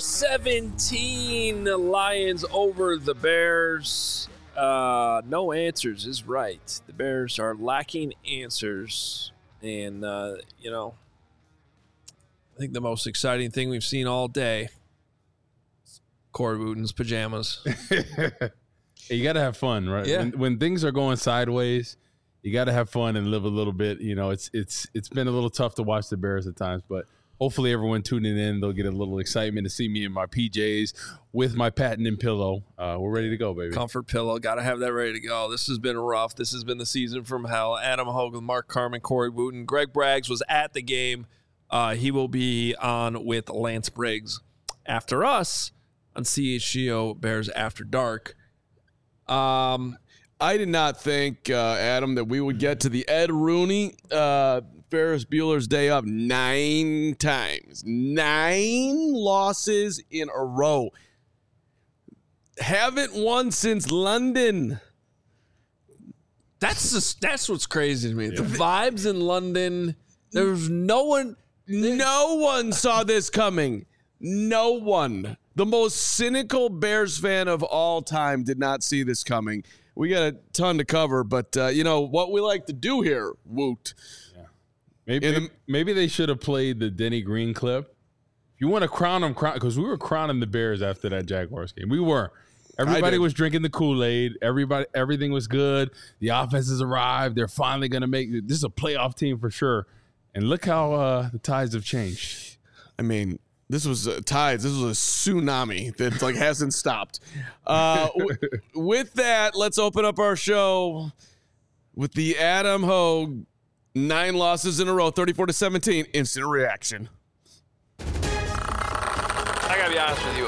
34-17, the Lions over the Bears. No answers is right. The Bears are lacking answers. And, I think the most exciting thing we've seen all day is Corey Wooten's pajamas. Hey, you got to have fun, right? Yeah. When things are going sideways, you got to have fun and live a little bit. It's been a little tough to watch the Bears at times, but hopefully everyone tuning in, they'll get a little excitement to see me in my PJs with my patented pillow. We're ready to go, baby. Comfort pillow. Got to have that ready to go. This has been rough. This has been the season from hell. Adam Hogue, Mark Carman, Corey Wooten. Greg Braggs was at the game. He will be on with Lance Briggs after us on CHGO Bears After Dark. I did not think, Adam, that we would get to the Ed Rooney Ferris Bueller's Day Off 9 times. 9 losses in a row. Haven't won since London. That's what's crazy to me. Yeah. The vibes in London, there's no one saw this coming. No one. The most cynical Bears fan of all time did not see this coming. We got a ton to cover, but what we like to do here, Woot. Yeah. Maybe they should have played the Denny Green clip. If you want to crown them, because we were crowning the Bears after that Jaguars game. We were. Everybody was drinking the Kool-Aid. Everything was good. The offenses arrived. They're finally going to make – this is a playoff team for sure. And look how the tides have changed. I mean – this was tides. This was a tsunami that hasn't stopped. With that, let's open up our show with the Adam Hogue 9 losses in a row, 34-17, instant reaction. I gotta be honest with you.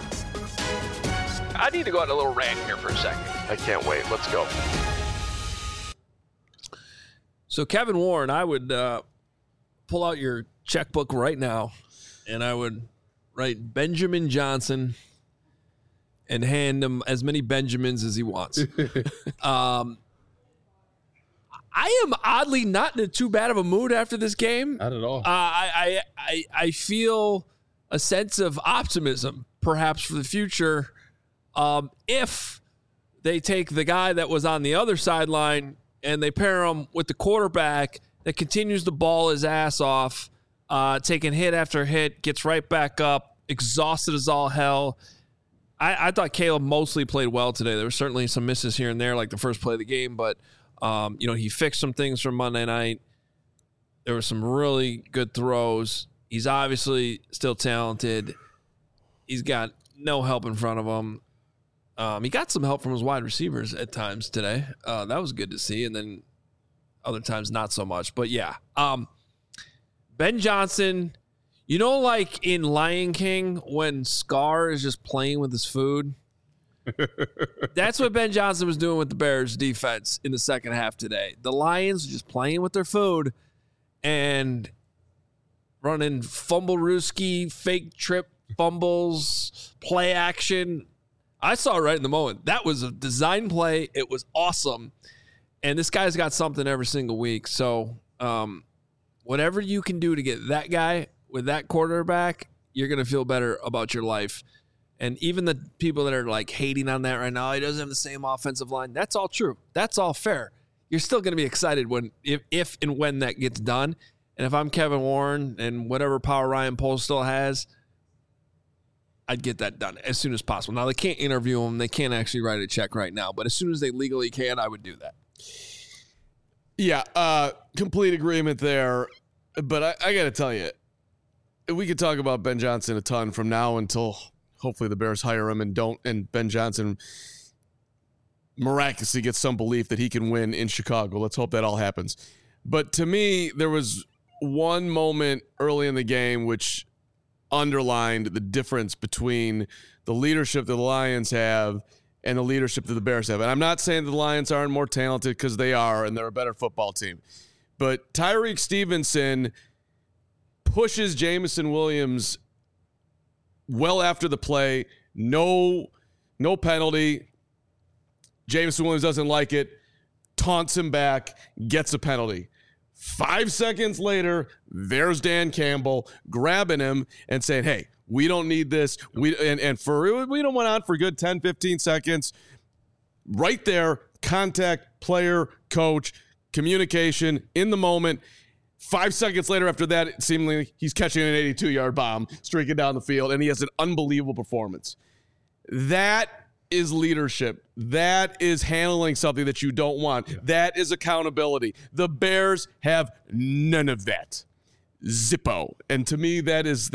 I need to go on a little rant here for a second. I can't wait. Let's go. So Kevin Warren, I would pull out your checkbook right now. And I would write Benjamin Johnson and hand him as many Benjamins as he wants. I am oddly not in too bad of a mood after this game. Not at all. I feel a sense of optimism, perhaps for the future, if they take the guy that was on the other sideline and they pair him with the quarterback that continues to ball his ass off. Taking hit after hit, gets right back up, exhausted as all hell. I thought Caleb mostly played well today. There were certainly some misses here and there, like the first play of the game, but he fixed some things from Monday night. There were some really good throws. He's obviously still talented. He's got no help in front of him. He got some help from his wide receivers at times today. That was good to see, and then other times not so much. But yeah, Ben Johnson, like in Lion King when Scar is just playing with his food? That's what Ben Johnson was doing with the Bears defense in the second half today. The Lions just playing with their food and running fumble-rooski, fake trip fumbles, play action. I saw it right in the moment. That was a design play. It was awesome. And this guy's got something every single week. So, whatever you can do to get that guy with that quarterback, you're going to feel better about your life. And even the people that are hating on that right now, he doesn't have the same offensive line. That's all true. That's all fair. You're still going to be excited if and when that gets done. And if I'm Kevin Warren and whatever power Ryan Poles still has, I'd get that done as soon as possible. Now, they can't interview him. They can't actually write a check right now. But as soon as they legally can, I would do that. Yeah, complete agreement there. But I got to tell you, we could talk about Ben Johnson a ton from now until hopefully the Bears hire him and Ben Johnson miraculously gets some belief that he can win in Chicago. Let's hope that all happens. But to me, there was one moment early in the game which underlined the difference between the leadership that the Lions have and the leadership that the Bears have. And I'm not saying the Lions aren't more talented, because they are, and they're a better football team. But Tyreek Stevenson pushes Jameson Williams well after the play. No penalty. Jameson Williams doesn't like it. Taunts him back. Gets a penalty. 5 seconds later, there's Dan Campbell grabbing him and saying, hey, We don't need this. We don't went on for a good 10, 15 seconds. Right there, contact, player, coach, communication in the moment. 5 seconds later after that, seemingly he's catching an 82-yard bomb, streaking down the field, and he has an unbelievable performance. That is leadership. That is handling something that you don't want. Yeah. That is accountability. The Bears have none of that. Zippo. And to me, that is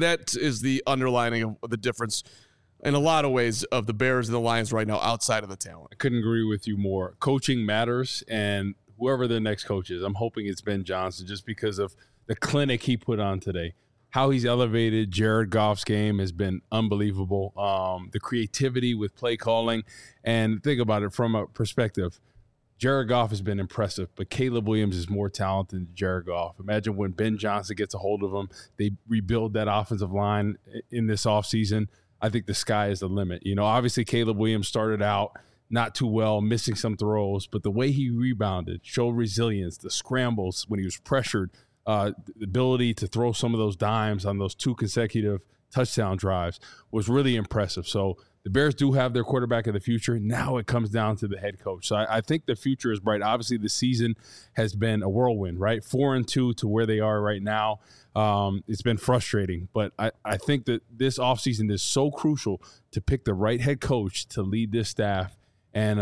the underlining of the difference in a lot of ways of the Bears and the Lions right now outside of the talent. I couldn't agree with you more. Coaching matters, and whoever the next coach is, I'm hoping it's Ben Johnson just because of the clinic he put on today. How he's elevated Jared Goff's game has been unbelievable. The creativity with play calling. And think about it from a perspective. Jared Goff has been impressive, but Caleb Williams is more talented than Jared Goff. Imagine when Ben Johnson gets a hold of him, they rebuild that offensive line in this offseason. I think the sky is the limit. You know, obviously Caleb Williams started out not too well, missing some throws, but the way he rebounded, showed resilience, the scrambles when he was pressured, the ability to throw some of those dimes on those 2 consecutive touchdown drives was really impressive. So the Bears do have their quarterback of the future. Now it comes down to the head coach. So I think the future is bright. Obviously, the season has been a whirlwind, right? 4-2 to where they are right now. It's been frustrating, but I think that this offseason is so crucial to pick the right head coach to lead this staff. And,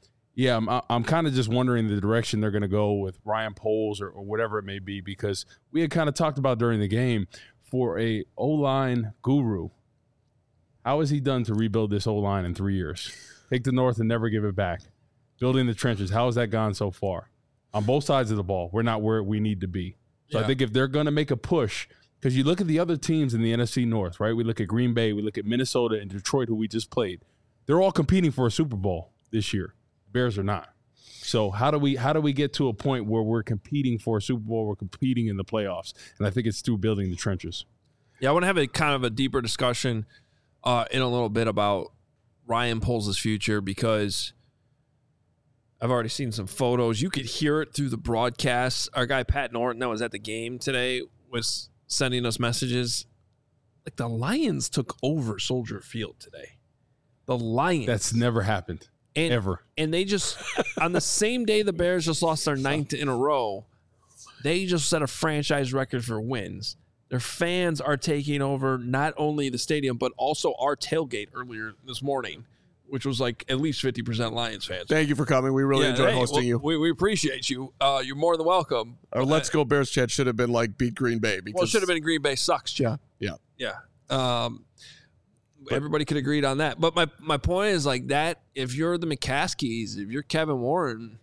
I'm kind of just wondering the direction they're going to go with Ryan Poles or whatever it may be, because we had kind of talked about during the game for a O-line guru. How has he done to rebuild this O-line in 3 years? Take the North and never give it back. Building the trenches. How has that gone so far? On both sides of the ball, we're not where we need to be. So I think if they're going to make a push, because you look at the other teams in the NFC North, right? We look at Green Bay, we look at Minnesota and Detroit, who we just played. They're all competing for a Super Bowl this year. Bears are not. So how do we get to a point where we're competing for a Super Bowl, we're competing in the playoffs? And I think it's through building the trenches. Yeah, I want to have a kind of a deeper discussion in a little bit about Ryan Poles' future, because I've already seen some photos. You could hear it through the broadcast. Our guy Pat Norton that was at the game today was sending us messages. Like, the Lions took over Soldier Field today. The Lions. That's never happened. Ever. And they just, on the same day the Bears just lost their 9th in a row, they just set a franchise record for wins. Their fans are taking over not only the stadium, but also our tailgate earlier this morning, which was like at least 50% Lions fans. Thank you for coming. We really enjoyed hosting you. We appreciate you. You're more than welcome. Our Let's Go Bears chat should have been like beat Green Bay. Because, it should have been Green Bay sucks. Yeah. Everybody could agree on that. But my point is like that, if you're the McCaskies, if you're Kevin Warren,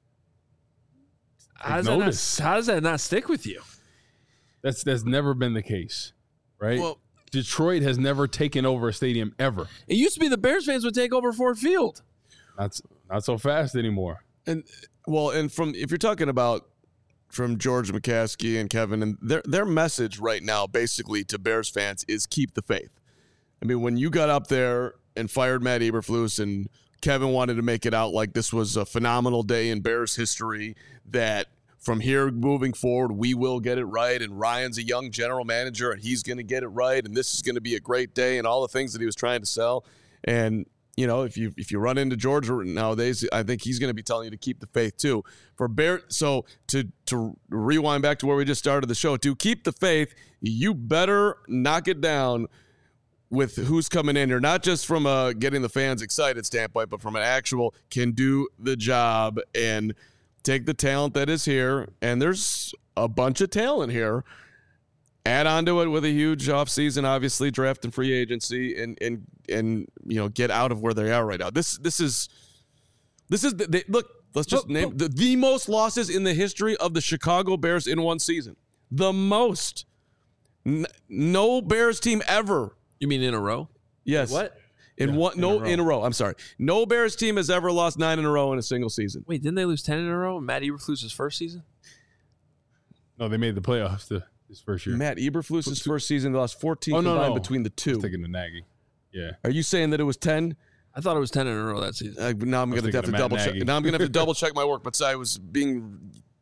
how does that not stick with you? That's never been the case, right? Well, Detroit has never taken over a stadium ever. It used to be the Bears fans would take over Ford Field. Not so fast anymore. And if you're talking about from George McCaskey and Kevin, and their message right now basically to Bears fans is keep the faith. I mean, when you got up there and fired Matt Eberflus and Kevin wanted to make it out like this was a phenomenal day in Bears history, that from here moving forward, we will get it right, and Ryan's a young general manager and he's going to get it right, and this is going to be a great day, and all the things that he was trying to sell. And, you know, if you run into George nowadays, I think he's going to be telling you to keep the faith too. For Bear, so to rewind back to where we just started the show, to keep the faith, you better knock it down with who's coming in here, not just from a getting the fans excited standpoint, but from an actual can do the job and take the talent that is here. And there's a bunch of talent here. Add on to it with a huge offseason, obviously, draft and free agency, and you know, get out of where they are right now. This is look. Let's just name the most losses in the history of the Chicago Bears in one season. The most. No Bears team ever. You mean in a row? Yes. What? In a row. I'm sorry. No Bears team has ever lost 9 in a row in a single season. Wait, didn't they lose 10 in a row in Matt Eberflus's first season? No, they made the playoffs his first year. Matt Eberflus's first season, they lost 14 combined between the two. I was thinking of Nagy. Yeah. Are you saying that it was 10? I thought it was 10 in a row that season. Now I'm going to have to double check. Now I'm going to have to double check my work. But I was being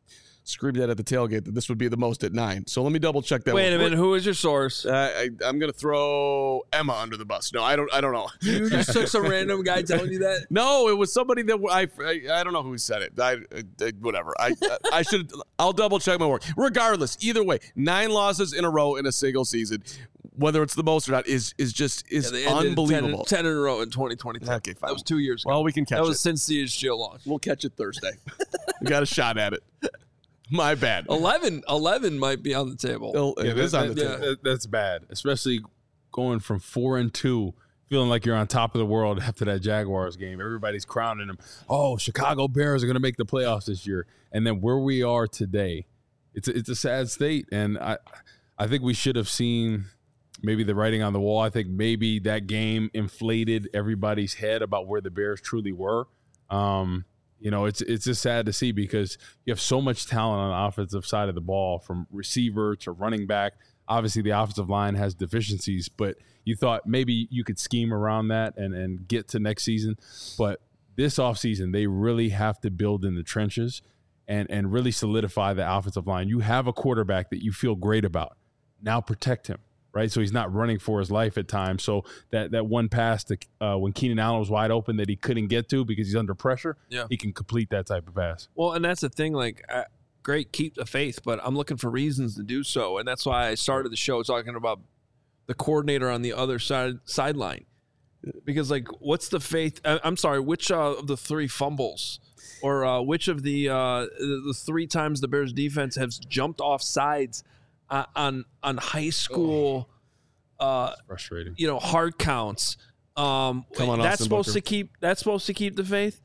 screamed that at the tailgate that this would be the most at 9. So let me double check that. Wait a minute, who is your source? I'm going to throw Emma under the bus. No, I don't know. You just took some random guy telling you that? No, it was somebody that I don't know who said it. Whatever. I should. I'll double check my work. Regardless, either way, 9 losses in a row in a single season, whether it's the most or not, is unbelievable. 10 in a row in 2022. Okay, fine. That was 2 years ago. Well, we can catch it. That was since the HGL launch. We'll catch it Thursday. We got a shot at it. My bad. 11 might be on the table. It is on the table. That's bad, especially going from 4-2, feeling like you're on top of the world after that Jaguars game. Everybody's crowning them. Oh, Chicago Bears are going to make the playoffs this year. And then where we are today, it's a sad state. And I think we should have seen maybe the writing on the wall. I think maybe that game inflated everybody's head about where the Bears truly were. It's just sad to see because you have so much talent on the offensive side of the ball, from receiver to running back. Obviously, the offensive line has deficiencies, but you thought maybe you could scheme around that and get to next season. But this offseason, they really have to build in the trenches and really solidify the offensive line. You have a quarterback that you feel great about. Now protect him, right? So he's not running for his life at times. So that one pass to when Keenan Allen was wide open that he couldn't get to because he's under pressure, he can complete that type of pass. Well, and that's the thing, great, keep the faith, but I'm looking for reasons to do so. And that's why I started the show talking about the coordinator on the other sideline. Because, what's the faith? I'm sorry, which of the 3 fumbles or which of the 3 times the Bears defense has jumped off sides on high school, frustrating. Hard counts. Come on, that's Austin supposed Booker. to keep. That's supposed to keep the faith.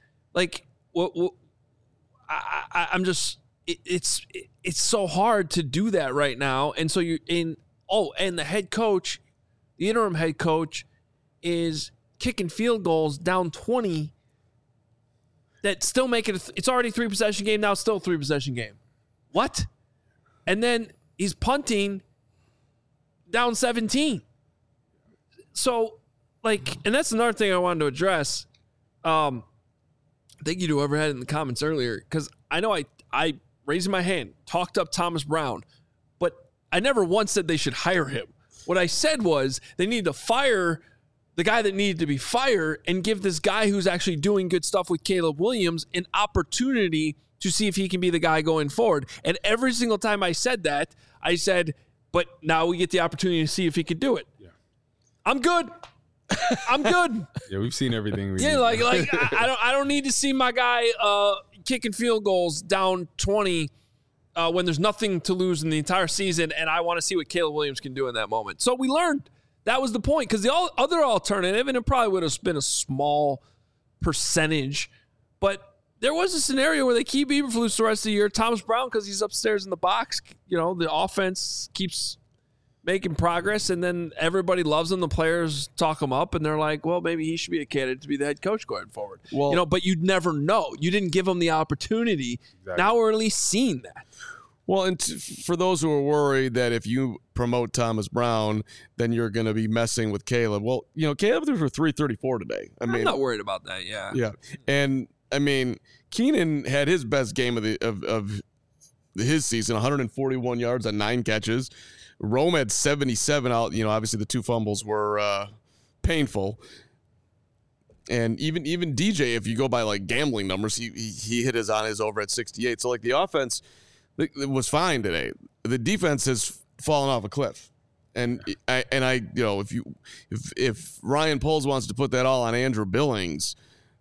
I'm just. It's so hard to do that right now, and so you're in. Oh, and the head coach, the interim head coach, is kicking field goals down 20. That still make it. It's already 3-possession game now. It's still a 3-possession game. What? And then he's punting down 17. So, and that's another thing I wanted to address. Thank you to whoever had it in the comments earlier, because I know I raising my hand, talked up Thomas Brown, but I never once said they should hire him. What I said was they need to fire the guy that needed to be fired and give this guy who's actually doing good stuff with Caleb Williams an opportunity to see if he can be the guy going forward. And every single time I said that, I said, but now we get the opportunity to see if he could do it. Yeah. I'm good. I'm good. Yeah, we've seen everything. I don't need to see my guy kicking field goals down 20 when there's nothing to lose in the entire season, and I want to see what Caleb Williams can do in that moment. So we learned. That was the point, because the other alternative, and it probably would have been a small percentage, but there was a scenario where they keep Eberflus the rest of the year. Thomas Brown, because he's upstairs in the box, the offense keeps making progress, and then everybody loves him. The players talk him up, and they're like, well, maybe he should be a candidate to be the head coach going forward. Well, but you'd never know. You didn't give him the opportunity. Exactly. Now we're at least seeing that. Well, and for those who are worried that if you promote Thomas Brown, then you're going to be messing with Caleb. Well, Caleb threw for 334 today. I'm not worried about that. Yeah. Yeah. And Keenan had his best game of his season, 141 yards on 9 catches. Rome had 77 out. Obviously the 2 fumbles were painful. And even DJ, if you go by gambling numbers, he hit on his over at 68. So the offense, it was fine today. The defense has fallen off a cliff, and if Ryan Poles wants to put that all on Andrew Billings,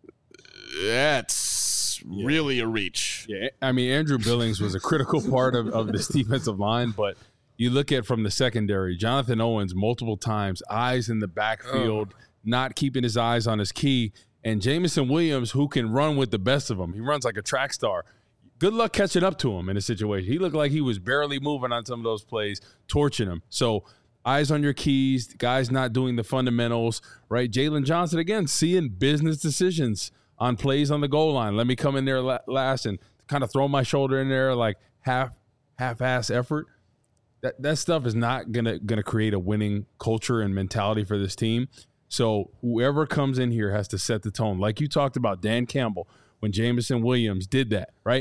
that's really a reach. Yeah, Andrew Billings was a critical part of this defensive line, but you look at from the secondary, Jonathan Owens multiple times, eyes in the backfield, not keeping his eyes on his key, and Jameson Williams, who can run with the best of them. He runs like a track star. Good luck catching up to him in a situation. He looked like he was barely moving on some of those plays, torching him. So eyes on your keys, guys not doing the fundamentals, right? Jalen Johnson, again, seeing business decisions on plays on the goal line. Let me come in there last and kind of throw my shoulder in there half-ass effort. That stuff is not gonna create a winning culture and mentality for this team. So whoever comes in here has to set the tone. Like you talked about Dan Campbell when Jameson Williams did that, right?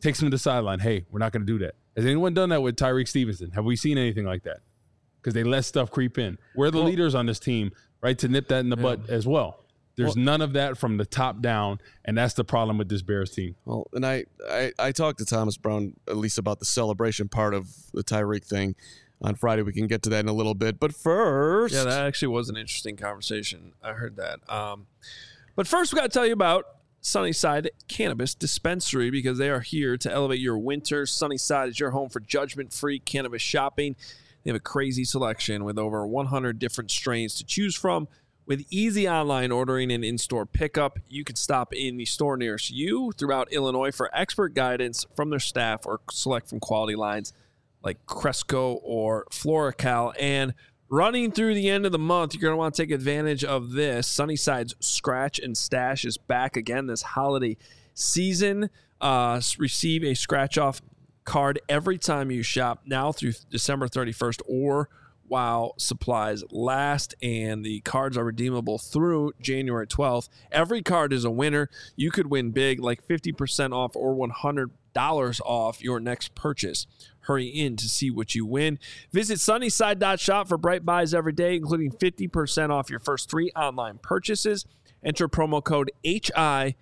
takes him to the sideline. Hey, we're not going to do that. Has anyone done that with Tyreek Stevenson? Have we seen anything like that? Because they let stuff creep in. We're the leaders on this team, right, to nip that in the butt as well. There's none of that from the top down, and that's the problem with this Bears team. Well, and I talked to Thomas Brown at least about the celebration part of the Tyreek thing on Friday. We can get to that in a little bit. But first... Yeah, that actually was an interesting conversation. I heard that. But first, we got to tell you about Sunnyside Cannabis Dispensary, because they are here to elevate your winter. Sunnyside is your home for judgment-free cannabis shopping. They have a crazy selection with over 100 different strains to choose from. With easy online ordering and in-store pickup, you can stop in the store nearest you throughout Illinois for expert guidance from their staff, or select from quality lines like Cresco or Floracal. And running through the end of the month, you're going to want to take advantage of this. Sunnyside's Scratch and Stash is back again this holiday season. Receive a scratch-off card every time you shop now through December 31st or while supplies last, and the cards are redeemable through January 12th. Every card is a winner. You could win big, like 50% off or $100 off your next purchase. Hurry in to see what you win. Visit Sunnyside.shop for bright buys every day, including 50% off your first 3 online purchases. Enter promo code HICHGO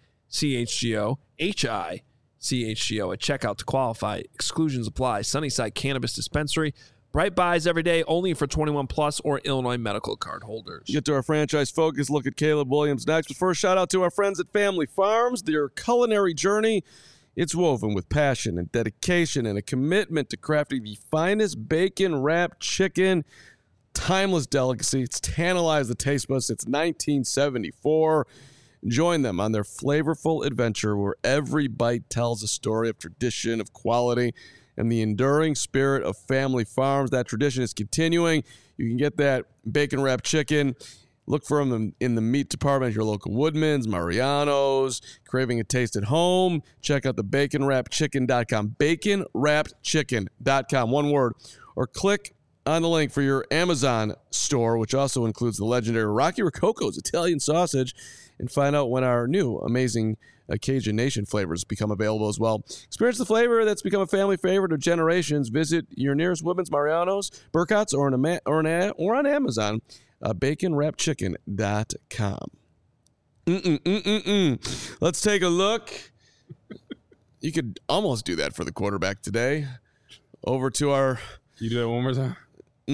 at checkout to qualify. Exclusions apply. Sunnyside Cannabis Dispensary. Bright buys every day, only for 21 plus or Illinois medical card holders. Get to our franchise focus. Look at Caleb Williams next. But first, shout out to our friends at Family Farms. Their culinary journey, it's woven with passion and dedication and a commitment to crafting the finest bacon-wrapped chicken. Timeless delicacy. It's tantalized the taste buds since 1974. Join them on their flavorful adventure where every bite tells a story of tradition, of quality, and the enduring spirit of Family Farms. That tradition is continuing. You can get that bacon-wrapped chicken. Look for them in the meat department at your local Woodman's, Mariano's. Craving a taste at home? Check out the baconwrappedchicken.com. Baconwrappedchicken.com, one word. Or click on the link for your Amazon store, which also includes the legendary Rocky Rococo's Italian sausage, and find out when our new amazing Cajun Nation flavors become available as well. Experience the flavor that's become a family favorite of generations. Visit your nearest Woodman's, Mariano's, Burcott's, or on Amazon. BaconWrappedChicken.com. Let's take a look. You could almost do that for the quarterback today. Over to our... You do that one more time?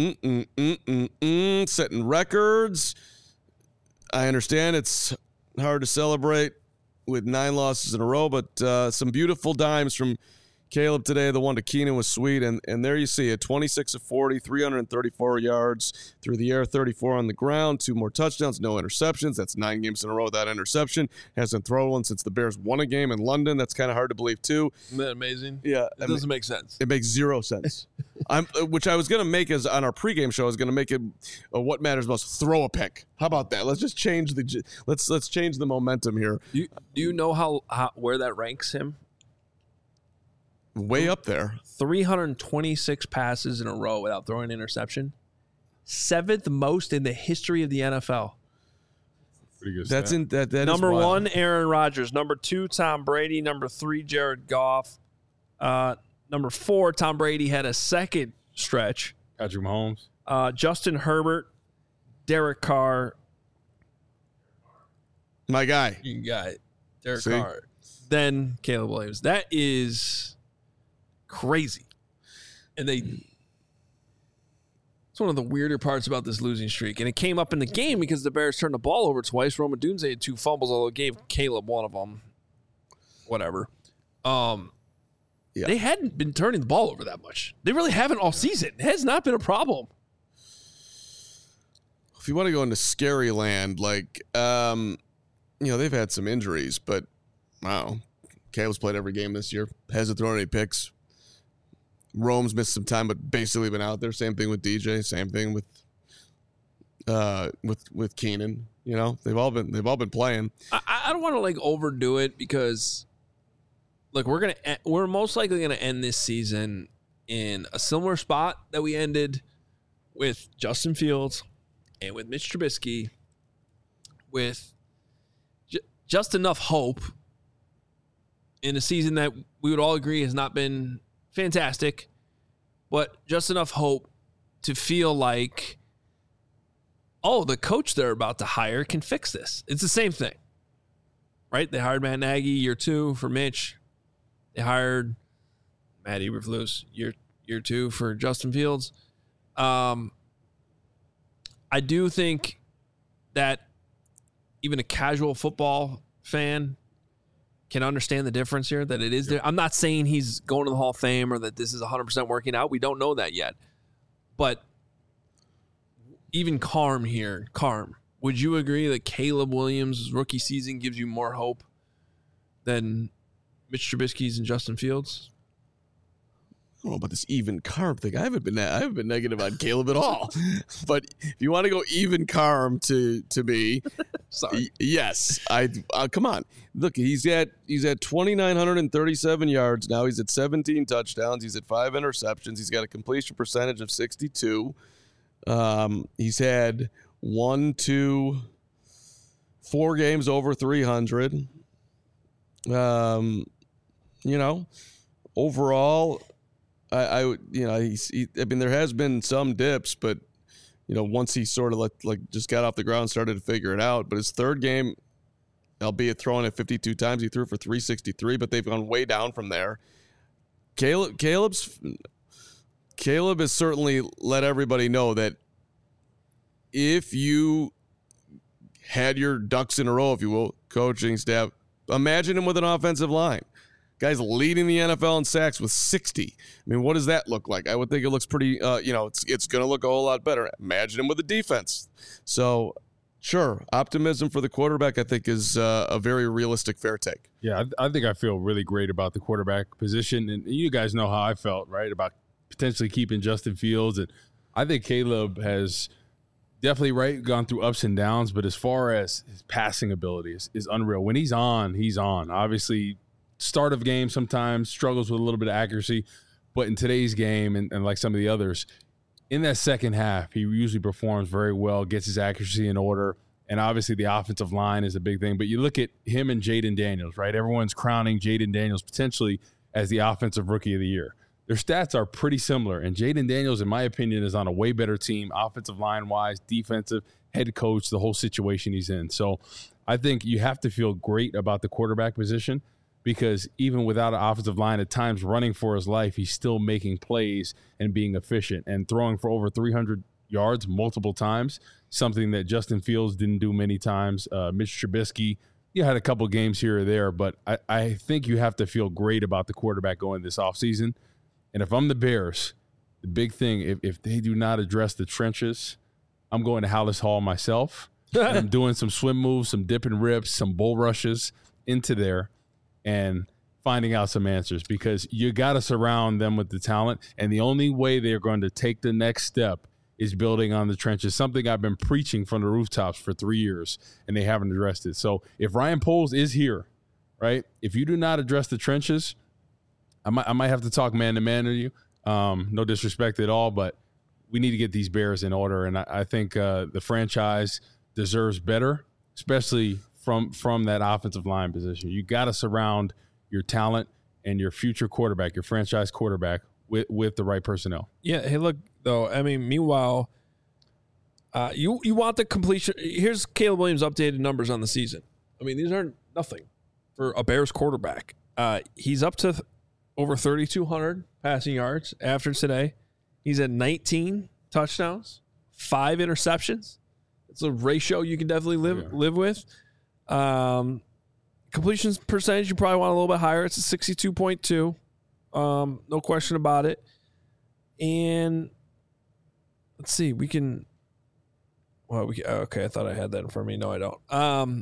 Setting records. I understand it's hard to celebrate with 9 losses in a row, but some beautiful dimes from Caleb today. The one to Keenan was sweet, and there you see it. 26 of 40, 334 yards through the air, 34 on the ground, 2 more touchdowns, no interceptions. That's 9 games in a row without interception. Hasn't thrown one since the Bears won a game in London. That's kind of hard to believe, too. Isn't that amazing? Yeah. It doesn't make sense. It makes 0 sense. Which I was going to make as on our pregame show. I was going to make it what matters most, throw a pick. How about that? Let's just change let's change the momentum here. Do you know how where that ranks him? Way up there. 326 passes in a row without throwing an interception. 7th most in the history of the NFL. Pretty good. That's stat. that Number is wild. 1, Aaron Rodgers. Number 2, Tom Brady. Number 3, Jared Goff. Number 4, Tom Brady had a second stretch. Patrick Mahomes. Justin Herbert, Derek Carr. My guy. You got it. Derek See? Carr. Then Caleb Williams. That is crazy. And it's one of the weirder parts about this losing streak. And it came up in the game because the Bears turned the ball over twice. Roma Dunze had 2 fumbles, although it gave Caleb one of them. Whatever. They hadn't been turning the ball over that much. They really haven't all season. It has not been a problem. If you want to go into scary land, like, they've had some injuries, but wow. Caleb's played every game this year. Hasn't thrown any picks. Rome's missed some time, but basically been out there. Same thing with DJ. Same thing with Keenan. You know, they've all been playing. I don't want to overdo it because, we're most likely gonna end this season in a similar spot that we ended with Justin Fields and with Mitch Trubisky, with just enough hope in a season that we would all agree has not been fantastic, but just enough hope to feel like, oh, the coach they're about to hire can fix this. It's the same thing, right? They hired Matt Nagy year 2 for Mitch. They hired Matt Eberflus year 2 for Justin Fields. I do think that even a casual football fan can understand the difference here, that it is there. I'm not saying he's going to the Hall of Fame or that this is 100% working out. We don't know that yet. But even Carm, would you agree that Caleb Williams' rookie season gives you more hope than Mitch Trubisky's and Justin Fields? I don't know about this even Carm thing. I haven't been negative on Caleb at all. But if you want to go even Carm to me, sorry, yes, come on. Look, he's at 2,937 yards now. He's at 17 touchdowns. He's at 5 interceptions. He's got a completion percentage of 62. He's had 4 games over 300. Overall, I mean, there has been some dips, but once he sort of just got off the ground, started to figure it out. But his third game, albeit throwing it 52 times, he threw for 363, but they've gone way down from there. Caleb has certainly let everybody know that if you had your ducks in a row, if you will, coaching staff, imagine him with an offensive line. Guy's leading the NFL in sacks with 60. I mean, what does that look like? I would think it looks pretty, it's going to look a whole lot better. Imagine him with a defense. So, sure, optimism for the quarterback, I think, is a very realistic, fair take. Yeah, I think I feel really great about the quarterback position. And you guys know how I felt, right, about potentially keeping Justin Fields. And I think Caleb has definitely gone through ups and downs. But as far as his passing ability is unreal. When he's on, he's on. Obviously, start of game sometimes struggles with a little bit of accuracy, but in today's game and like some of the others, in that second half, he usually performs very well, gets his accuracy in order, and obviously the offensive line is a big thing. But you look at him and Jayden Daniels, right? Everyone's crowning Jayden Daniels potentially as the offensive rookie of the year. Their stats are pretty similar, and Jayden Daniels, in my opinion, is on a way better team, offensive line-wise, defensive, head coach, the whole situation he's in. So I think you have to feel great about the quarterback position, because even without an offensive line, at times running for his life, he's still making plays and being efficient and throwing for over 300 yards multiple times, something that Justin Fields didn't do many times. Mitch Trubisky, had a couple games here or there, but I think you have to feel great about the quarterback going this offseason. And if I'm the Bears, the big thing, if they do not address the trenches, I'm going to Hallis Hall myself. And I'm doing some swim moves, some dip and rips, some bull rushes into there, and finding out some answers, because you got to surround them with the talent. And the only way they're going to take the next step is building on the trenches, something I've been preaching from the rooftops for 3 years, and they haven't addressed it. So if Ryan Poles is here, right, if you do not address the trenches, I might have to talk man-to-man to you. No disrespect at all, but we need to get these Bears in order. And I think the franchise deserves better, especially from that offensive line position. You got to surround your talent and your future quarterback, your franchise quarterback, with the right personnel. Yeah. Hey, look, though, I mean, meanwhile, you want the completion. Here's Caleb Williams' updated numbers on the season. I mean, these aren't nothing for a Bears quarterback. He's up to over 3,200 passing yards after today. He's at 19 touchdowns, 5 interceptions. It's a ratio you can definitely live with. Completions percentage, you probably want a little bit higher. It's a 62.2. No question about it. And let's see, okay, I thought I had that in front of me. No, I don't.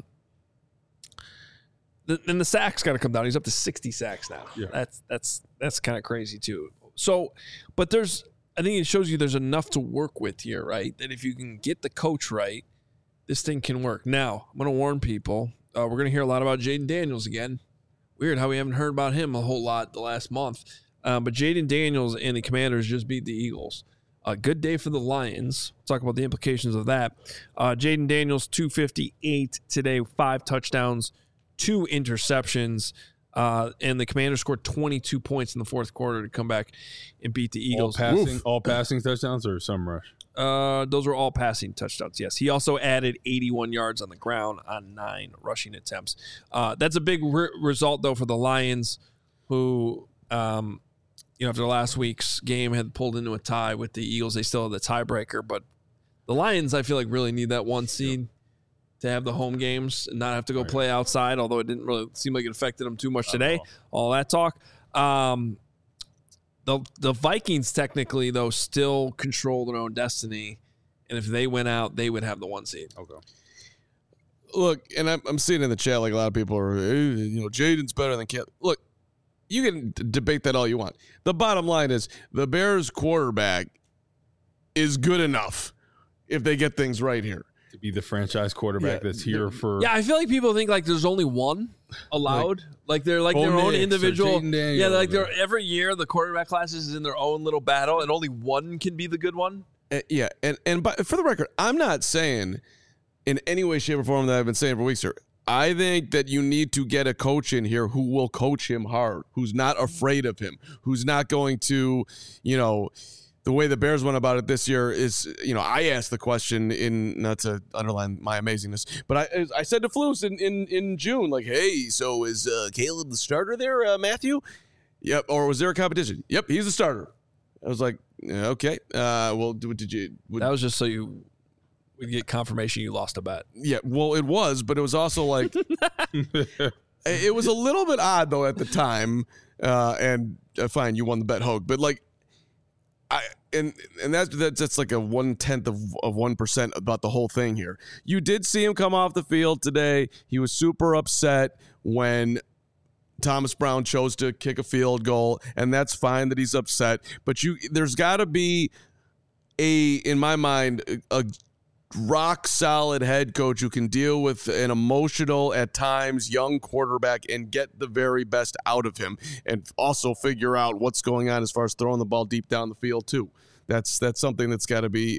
Then the sacks got to come down. He's up to 60 sacks now. Yeah. That's kind of crazy too. So, but I think it shows you there's enough to work with here, right? That if you can get the coach right, this thing can work. Now, I'm going to warn people. We're going to hear a lot about Jayden Daniels again. Weird how we haven't heard about him a whole lot the last month. But Jayden Daniels and the Commanders just beat the Eagles. A good day for the Lions. We'll talk about the implications of that. Jayden Daniels, 258 today, 5 touchdowns, 2 interceptions. And the Commanders scored 22 points in the fourth quarter to come back and beat the Eagles. All passing touchdowns or some rush? Those were all passing touchdowns, yes. He also added 81 yards on the ground on 9 rushing attempts. That's a big result, though, for the Lions, who, after last week's game had pulled into a tie with the Eagles. They still have the tiebreaker, but the Lions, I feel like, really need that 1 seed to have the home games and not have to go play outside, although it didn't really seem like it affected them too much today. All that talk. The Vikings technically, though, still control their own destiny, and if they went out, they would have the 1 seed. Okay. Look, and I'm seeing in the chat like a lot of people are, Jaden's better than Caleb. Look, you can debate that all you want. The bottom line is the Bears quarterback is good enough if they get things right here. To be the franchise quarterback that's here for... Yeah, I feel like people think like there's only one allowed. Like they're like their own individual... Yeah, like they're every year the quarterback classes is in their own little battle and only one can be the good one. And for the record, I'm not saying in any way, shape, or form that I've been saying for weeks here. I think that you need to get a coach in here who will coach him hard, who's not afraid of him, who's not going to, the way the Bears went about it this year is, I asked the question not to underline my amazingness, but I said to Flus in June, like, hey, so is Caleb the starter there, Matthew? Yep. Or was there a competition? Yep, he's the starter. I was like, okay. Well, did you? That was just so you would get confirmation you lost a bet. Yeah, well, it was, but it was also like, it was a little bit odd though at the time. And fine, you won the bet, Hogue, but like, that's like a 1/10 of 1% about the whole thing here. You did see him come off the field today. He was super upset when Thomas Brown chose to kick a field goal, and that's fine that he's upset. But there's got to be in my mind, a rock solid head coach who can deal with an emotional, at times, young quarterback and get the very best out of him, and also figure out what's going on as far as throwing the ball deep down the field too. That's something that's got to be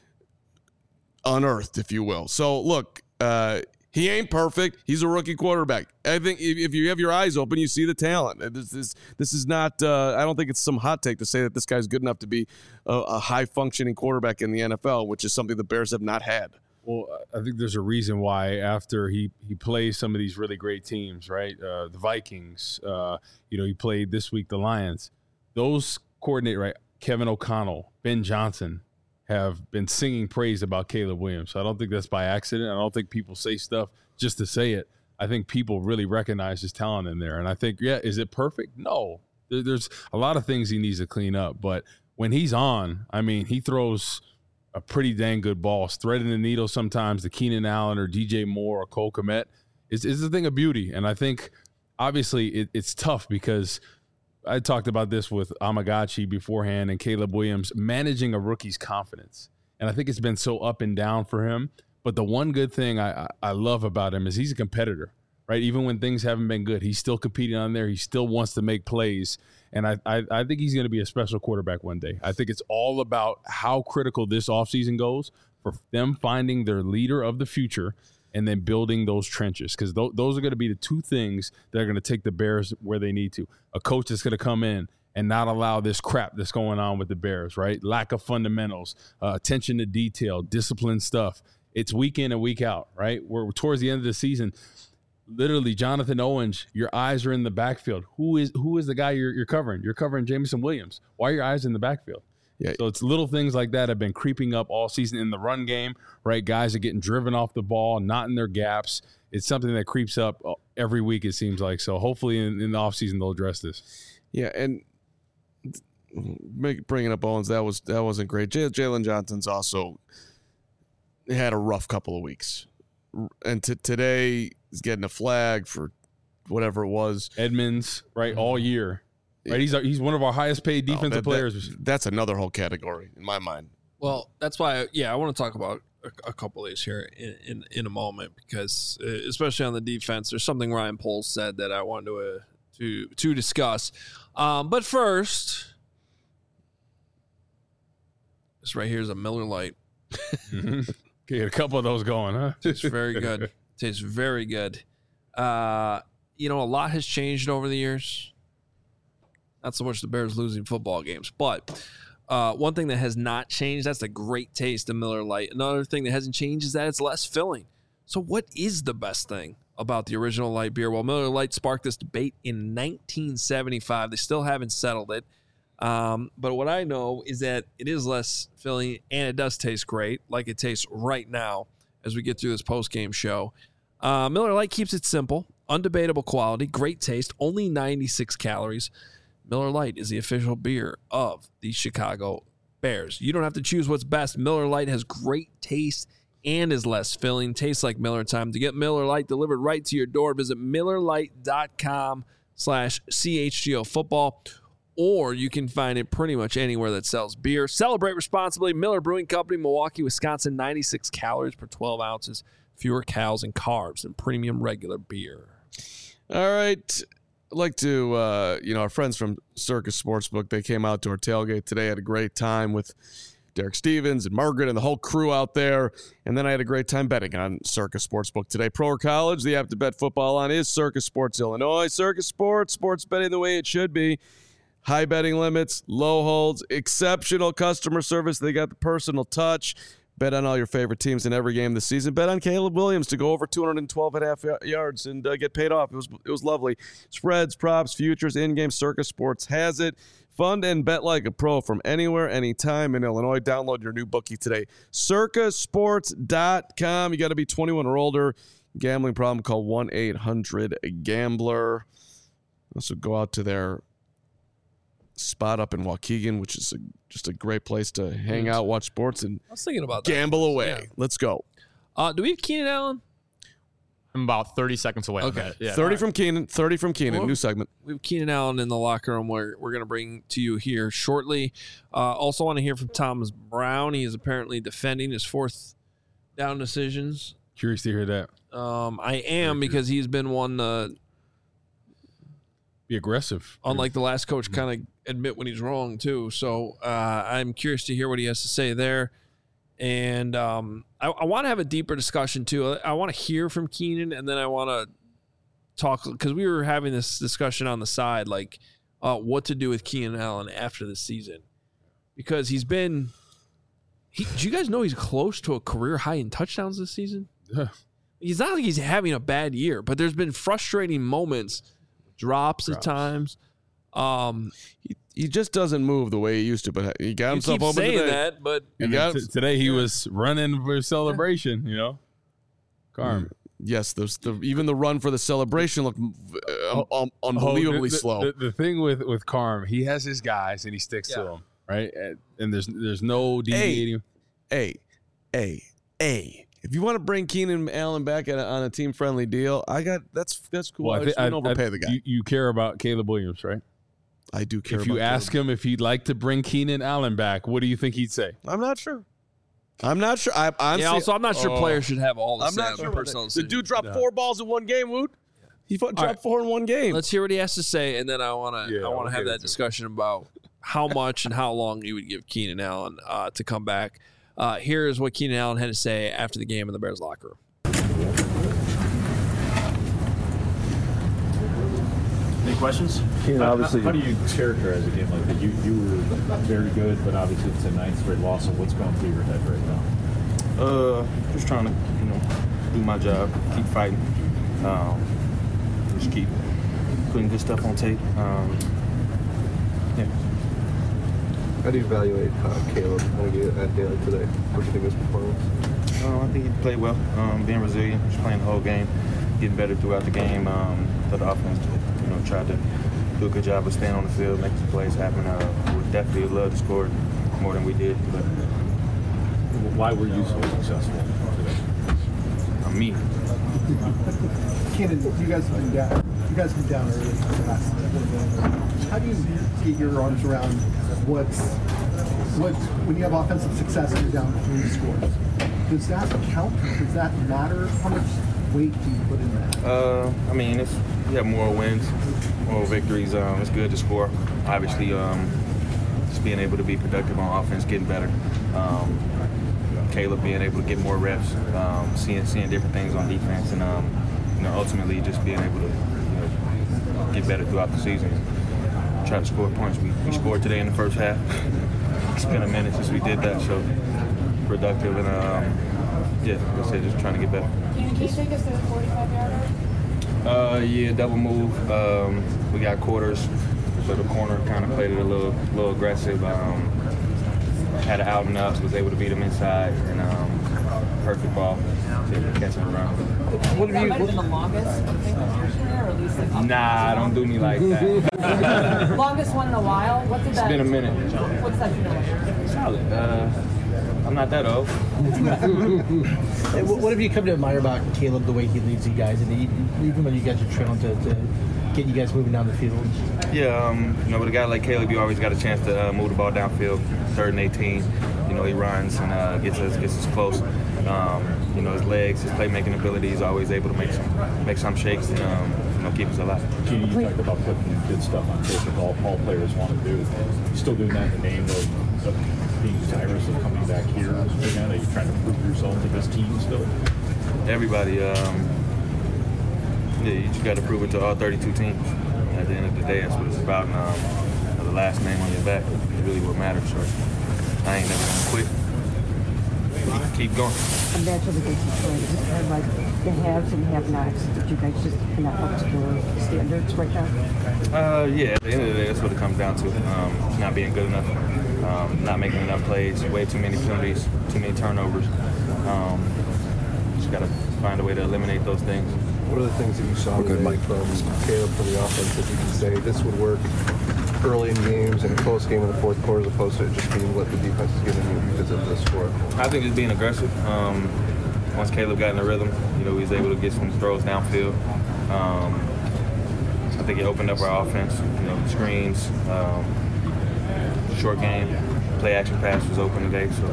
unearthed, if you will. So look, he ain't perfect. He's a rookie quarterback. I think if you have your eyes open, you see the talent. This is not. I don't think it's some hot take to say that this guy's good enough to be a high functioning quarterback in the NFL, which is something the Bears have not had. Well, I think there's a reason why after he plays some of these really great teams, right? The Vikings. He played this week the Lions. Those coordinate, right? Kevin O'Connell, Ben Johnson have been singing praise about Caleb Williams. So I don't think that's by accident. I don't think people say stuff just to say it. I think people really recognize his talent in there. And I think, is it perfect? No. There's a lot of things he needs to clean up. But when he's on, he throws a pretty dang good ball. Threading the needle sometimes to Keenan Allen or DJ Moore or Cole Kmet is a thing of beauty. And I think, obviously, it's tough because – I talked about this with Amagachi beforehand and Caleb Williams, managing a rookie's confidence. And I think it's been so up and down for him. But the one good thing I love about him is he's a competitor, right? Even when things haven't been good, he's still competing on there. He still wants to make plays. And I think he's going to be a special quarterback one day. I think it's all about how critical this offseason goes for them finding their leader of the future and then building those trenches, because those are going to be the two things that are going to take the Bears where they need to. A coach that's going to come in and not allow this crap that's going on with the Bears, right? Lack of fundamentals, attention to detail, disciplined stuff. It's week in and week out, right? We're towards the end of the season. Literally, Jonathan Owens, your eyes are in the backfield. Who is the guy you're covering? You're covering Jameson Williams. Why are your eyes in the backfield? Yeah. So it's little things like that have been creeping up all season in the run game, right? Guys are getting driven off the ball, not in their gaps. It's something that creeps up every week, it seems like. So hopefully in the offseason they'll address this. Yeah, and bringing up Owens, that wasn't great. Jalen Johnson's also had a rough couple of weeks. And today he's getting a flag for whatever it was. Edmonds, right, all year. Right, he's one of our highest paid defensive players. That's another whole category in my mind. Well, that's why, I want to talk about a couple of these here in a moment, because especially on the defense, there's something Ryan Poles said that I wanted to discuss. But first, this right here is a Miller Lite. Get a couple of those going, huh? Tastes very good. Tastes very good. a lot has changed over the years. Not so much the Bears losing football games, but one thing that has not changed, that's the great taste of Miller Lite. Another thing that hasn't changed is that it's less filling. So what is the best thing about the original light beer? Well, Miller Lite sparked this debate in 1975. They still haven't settled it. But what I know is that it is less filling, and it does taste great, like it tastes right now as we get through this post-game show. Miller Lite keeps it simple, undebatable quality, great taste, only 96 calories. Miller Lite is the official beer of the Chicago Bears. You don't have to choose what's best. Miller Lite has great taste and is less filling. Tastes like Miller time. To get Miller Lite delivered right to your door, visit MillerLite.com/CHGO football, or you can find it pretty much anywhere that sells beer. Celebrate responsibly. Miller Brewing Company, Milwaukee, Wisconsin, 96 calories per 12 ounces, fewer calories and carbs than premium regular beer. All right. I'd like to, our friends from Circus Sportsbook, they came out to our tailgate today. Had a great time with Derek Stevens and Margaret and the whole crew out there. And then I had a great time betting on Circus Sportsbook today. Pro or college, the app to bet football on is Circus Sports Illinois. Circus Sports betting the way it should be. High betting limits, low holds, exceptional customer service. They got the personal touch. Bet on all your favorite teams in every game this season. Bet on Caleb Williams to go over 212.5 yards and get paid off. It was lovely. Spreads, props, futures, in-game. Circus Sports has it. Fund and bet like a pro from anywhere, anytime in Illinois. Download your new bookie today. CircusSports.com. You got to be 21 or older. Gambling problem, call 1-800-GAMBLER. Also go out to their spot up in Waukegan, which is just a great place to hang out, watch sports, and I was thinking about that. Gamble away. Yeah. Let's go. Do we have Keenan Allen? I'm about 30 seconds away. Okay. Yeah. 30 from Keenan. Well, new segment. We have Keenan Allen in the locker room where we're going to bring to you here shortly. Also want to hear from Thomas Brown. He is apparently defending his fourth down decisions. Curious to hear that. I am, because he's been one be aggressive. unlike the last coach, kind of admit when he's wrong too. So I'm curious to hear what he has to say there. And I want to have a deeper discussion too. I want to hear from Keenan, and then I want to talk, because we were having this discussion on the side, like what to do with Keenan Allen after the season, because do you guys know he's close to a career high in touchdowns this season? Yeah. He's not like he's having a bad year, but there's been frustrating moments, drops at times. He just doesn't move the way he used to, but he got himself open saying today. that, but Today he was running for celebration, Carm. Yes, even the run for the celebration looked unbelievably slow. The thing with Carm, he has his guys and he sticks to them, right? And there's no deviating. Hey. If you want to bring Keenan Allen back on a team-friendly deal, that's cool. Well, I just wouldn't overpay the guy. You care about Caleb Williams, right? I do care. If you ask him if he'd like to bring Keenan Allen back, what do you think he'd say? I'm not sure. I'm not sure players should have all the I'm not sure personal the dude dropped 4 balls in one game, Wood. He dropped 4 in one game. Let's hear what he has to say, and then I want to have that discussion about how much and how long you would give Keenan Allen to come back. Here is what Keenan Allen had to say after the game in the Bears locker room. Any questions? Obviously, how do you characterize a game like that? You were very good, but obviously it's a 9th straight loss. So what's going through your head right now? just trying to, do my job, keep fighting, just keep putting good stuff on tape. Yeah. How do you evaluate Caleb at day like today? What do you think of his performance? I think he played well, being resilient, just playing the whole game, getting better throughout the game. The offense, tried to do a good job of staying on the field, making some plays happen. We definitely would love to score more than we did. But why were you so successful today? Me. Keenan, you guys have been down. You guys have been down early for the last little bit. How do you get your arms around what when you have offensive success and you're down 3 scores? Does that count? Does that matter? How much weight do you put in that? You have more wins, more victories. It's good to score. Obviously, just being able to be productive on offense, getting better. Caleb being able to get more reps, seeing different things on defense, and ultimately just being able to get better throughout the season. Try to score points. We scored today in the first half. It's been a minute since we did that, so productive and like I said, just trying to get better. Can you take us to the 45-yarder? Yeah, double move. We got quarters, so the corner kind of played it a little aggressive. Had an out and up, was able to beat him inside, and perfect ball to catch him around. What have you? That might have been the longest I think of your career, or at least like. Nah, don't do me like that. Longest one in a while. What did that? It's been a minute. What's that feel like? Solid. I'm not that old. What have you come to admire about Caleb, the way he leads you guys, and even when you guys are trailing to get you guys moving down the field? Yeah, with a guy like Caleb, you always got a chance to move the ball downfield, 3rd and 18. He runs and gets us close. His legs, his playmaking ability, he's always able to make some shakes and keep us alive. You talked about putting good stuff on tape that all players want to do. You still doing that in the name of being desirous of coming back here? Are you trying to prove yourself to this team still? Everybody, you just got to prove it to all 32 teams. At the end of the day, that's what it's about. And, the last name on your back is really what matters. So I ain't never gonna quit. Keep going. And that's what the big story. Like the haves and have-nots. Did you guys just not up to the standards right now? Yeah. At the end of the day, that's what it comes down to. Not being good enough, not making enough plays, way too many penalties, too many turnovers. Just got to find a way to eliminate those things. What are the things that you saw today from Caleb for the offense that you can say this would work early in games and a close game in the fourth quarter as opposed to it just being what the defense is giving you because of the score? I think just being aggressive. Once Caleb got in the rhythm, he was able to get some throws downfield. I think it opened up our offense. Screens, short game, play action pass was open today. So,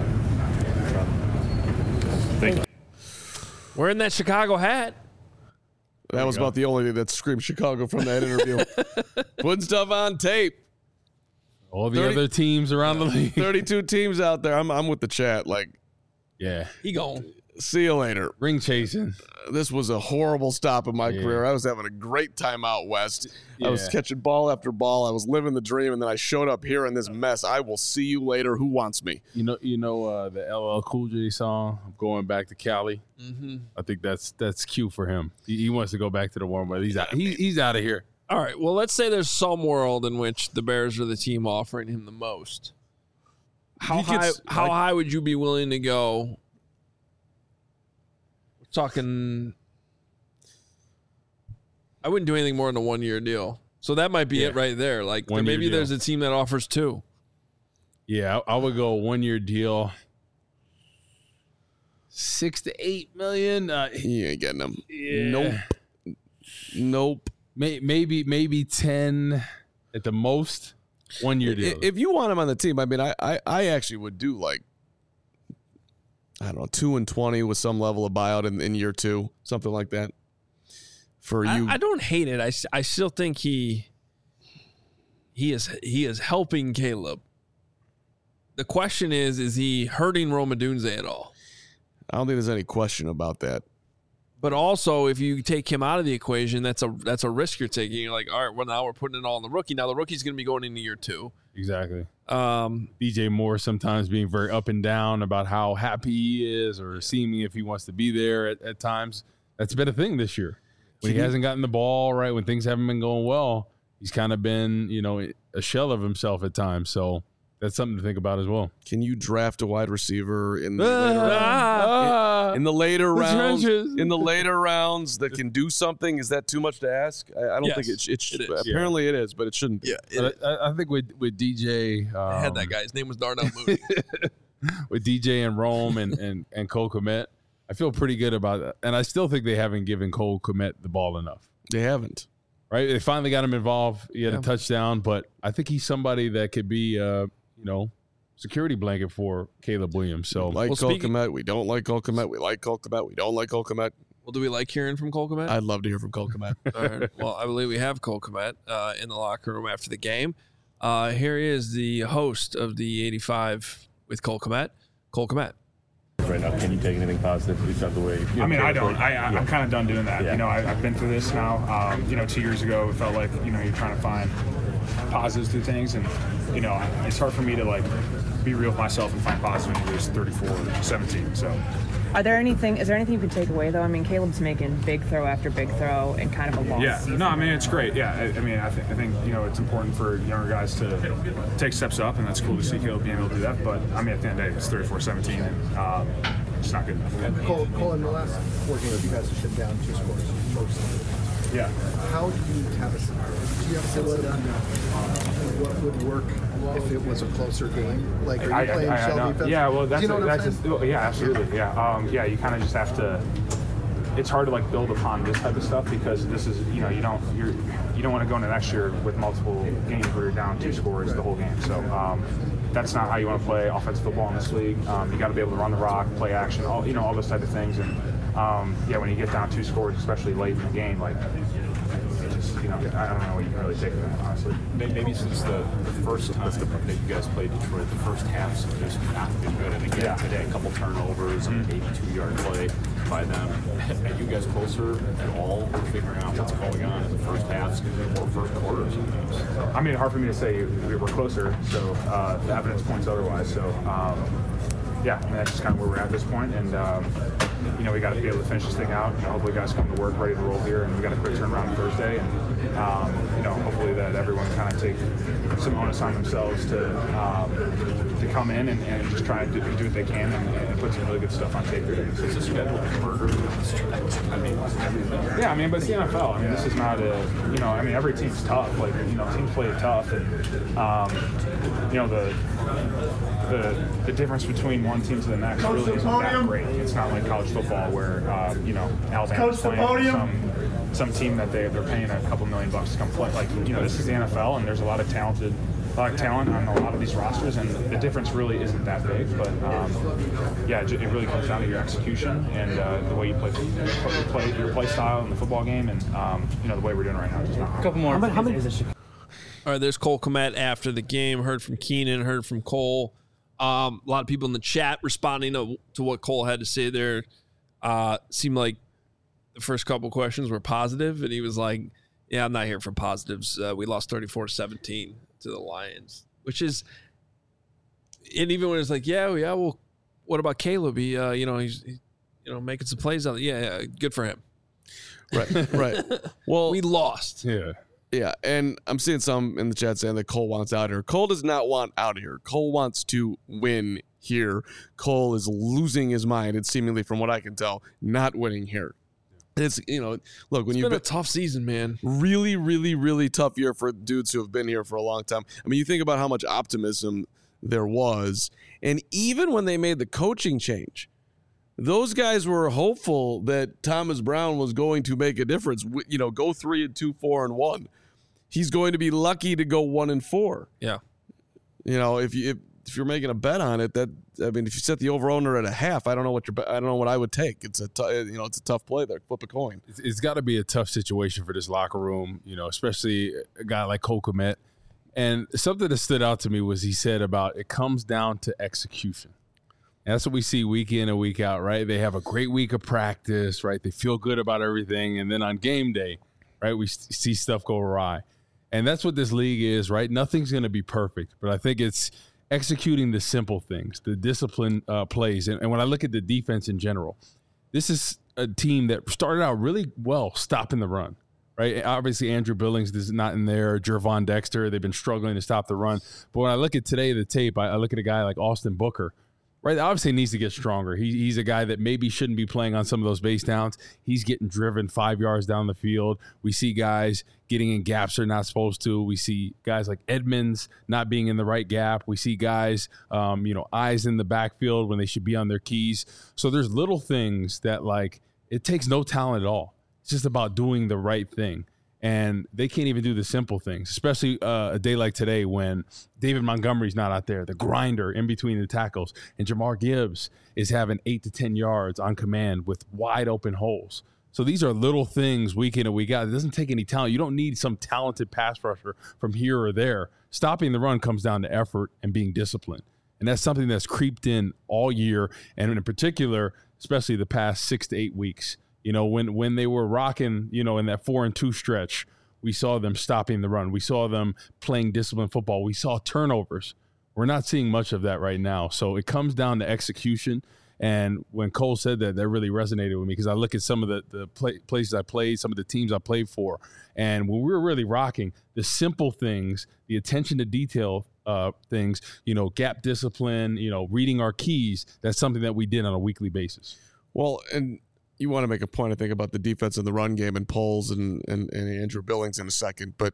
thank you. Wearing that Chicago hat. That was about the only thing that screamed Chicago from that interview. Putting stuff on tape. All the other teams around the league. 32 teams out there. I'm with the chat. Yeah. He gone. See you later. Ring chasing. This was a horrible stop in my career. I was having a great time out west. I was catching ball after ball. I was living the dream, and then I showed up here in this mess. I will see you later. Who wants me? You know the LL Cool J song, I'm Going Back to Cali? Mm-hmm. I think that's cute for him. He wants to go back to the warm weather. He's out. He's out of here. All right. Well, let's say there's some world in which the Bears are the team offering him the most. How high would you be willing to go? We're talking. I wouldn't do anything more than a 1-year deal. So that might be it right there. Like maybe there's a team that offers 2. Yeah, I would go 1-year deal. $6 to $8 million. You ain't getting them. Yeah. Nope. Maybe 10 at the most. 1-year deal. If you want him on the team, I mean, I actually would do 2 and 20 with some level of buyout in year 2, something like that. For you, I don't hate it. I still think he is helping Caleb. The question is he hurting Rome Odunze at all? I don't think there's any question about that. But also, if you take him out of the equation, that's a risk you're taking. You're like, all right, well, now we're putting it all on the rookie. Now the rookie's going to be going into year 2. Exactly. DJ Moore sometimes being very up and down about how happy he is or seeming if he wants to be there at times. That's been a thing this year. When he hasn't gotten the ball right, when things haven't been going well, he's kind of been, a shell of himself at times. So that's something to think about as well. Can you draft a wide receiver in the later rounds? In the later rounds that can do something? Is that too much to ask? I don't think it should. Apparently it is, but it shouldn't be. Yeah, I think with DJ, I had that guy. His name was Darnell Mooney. With DJ and Rome and Cole Kmet, I feel pretty good about that. And I still think they haven't given Cole Kmet the ball enough. They haven't. Right? They finally got him involved. He had a touchdown, but I think he's somebody that could be, security blanket for Caleb Williams. So, Cole Kmet. We don't like Cole Kmet. We like Cole Kmet. We don't like Cole Kmet. Well, do we like hearing from Cole Kmet? I'd love to hear from Cole Kmet. All right. Well, I believe we have Cole Kmet in the locker room after the game. Here he is, the host of the 85 with Cole Kmet. Cole Kmet. right now. Can you take anything positive? At least out the way. I mean, I don't. I'm kind of done doing that. Yeah. You know, I've been through this now. 2 years ago, it felt like, you're trying to find positives through things, and it's hard for me to like be real with myself and find positive when you lose 34-17. So. Is there anything you can take away though? I mean, Caleb's making big throw after big throw in kind of a long season. No, I mean, it's great. Yeah, I think it's important for younger guys to take steps up, and that's cool to see Caleb being able to do that. But I mean, at the end of the day, it's 34-17, and it's not good enough. Cole, in the last 4 games, you guys have shut down 2 scores most. Yeah. How do you have a sense of what would work if it was a closer game? Like, are you playing shell defense? Yeah, well, that's absolutely. Yeah, you kind of just have to. It's hard to like build upon this type of stuff because this is you don't want to go into next year with multiple games where you're down 2 scores the whole game. So that's not how you want to play offensive football in this league. You got to be able to run the rock, play action, all those type of things. And when you get down 2 scores, especially late in the game, like I don't know what you can really take from that, honestly. Maybe since the first time that you guys played Detroit, the first half's just not been good. And again, today, a couple turnovers, an 82-yard play by them. Are you guys closer at all to figuring out what's going on in the first halves or first quarters of games? I mean, hard for me to say we're closer, so the evidence points otherwise. So, that's just kind of where we're at this point. And, we got to be able to finish this thing out. Hopefully guys come to work ready to roll here, and we got a quick turnaround Thursday. And, hopefully that everyone kind of take some onus on themselves to come in and just try and do what they can and put some really good stuff on tape here. Is this schedule murder? I mean, everything. Yeah, but it's the NFL. This is not every team's tough. Like, teams play tough, and the difference between one team to the next really isn't that great. It's not like college football where Alabama's playing some team that they're paying a couple $1 million to come play. Like, this is the NFL, and there's a lot of talent on a lot of these rosters, and the difference really isn't that big. But it really comes down to your execution and the way you play your play style in the football game, and the way we're doing right now. Just not a couple more. How many? All right, there's Cole Kmet after the game. Heard from Keenan, heard from Cole. A lot of people in the chat responding to what Cole had to say there. Seemed like the first couple questions were positive, and he was like, yeah, I'm not here for positives. We lost 34-17 to the Lions, which is, and even when it's like, well, what about Caleb? He's making some plays on it. Yeah, good for him. Right. Well, we lost. Yeah, and I'm seeing some in the chat saying that Cole wants out here. Cole does not want out of here. Cole wants to win here. Cole is losing his mind, and seemingly, from what I can tell, not winning here. It's, look, when you've been a tough season, man. Really, really, really tough year for dudes who have been here for a long time. I mean, you think about how much optimism there was, and even when they made the coaching change, those guys were hopeful that Thomas Brown was going to make a difference. Go 3-2, 4-1. He's going to be lucky to go 1-4. Yeah. If you're making a bet on it, if you set the over under at a half, I don't know what I would take. It's a tough play there. Flip a coin. It's got to be a tough situation for this locker room, especially a guy like Cole Kmet. And something that stood out to me was he said about it comes down to execution. And that's what we see week in and week out, right? They have a great week of practice, right? They feel good about everything. And then on game day, right, we see stuff go awry. And that's what this league is, right? Nothing's going to be perfect. But I think it's executing the simple things, the discipline plays. And when I look at the defense in general, this is a team that started out really well stopping the run, right? Obviously, Andrew Billings is not in there. Gervon Dexter, they've been struggling to stop the run. But when I look at today, the tape, I look at a guy like Austin Booker, right? Obviously, he needs to get stronger. He's a guy that maybe shouldn't be playing on some of those base downs. He's getting driven 5 yards down the field. We see guys getting in gaps they're not supposed to. We see guys like Edmonds not being in the right gap. We see guys, eyes in the backfield when they should be on their keys. So there's little things that, like, it takes no talent at all. It's just about doing the right thing. And they can't even do the simple things, especially a day like today when David Montgomery's not out there, the grinder in between the tackles, and Jamar Gibbs is having 8 to 10 yards on command with wide open holes. So these are little things week in and week out. It doesn't take any talent. You don't need some talented pass rusher from here or there. Stopping the run comes down to effort and being disciplined. And that's something that's creeped in all year, and in particular, especially the past 6 to 8 weeks. You know, when they were rocking, you know, in that 4-2 stretch, we saw them stopping the run. We saw them playing disciplined football. We saw turnovers. We're not seeing much of that right now. So it comes down to execution. And when Cole said that, that really resonated with me because I look at some of the places I played, some of the teams I played for, and when we were really rocking, the simple things, the attention to detail things, you know, gap discipline, you know, reading our keys, that's something that we did on a weekly basis. Well, and you want to make a point, I think, about the defense and the run game and Poles and Andrew Billings in a second. But,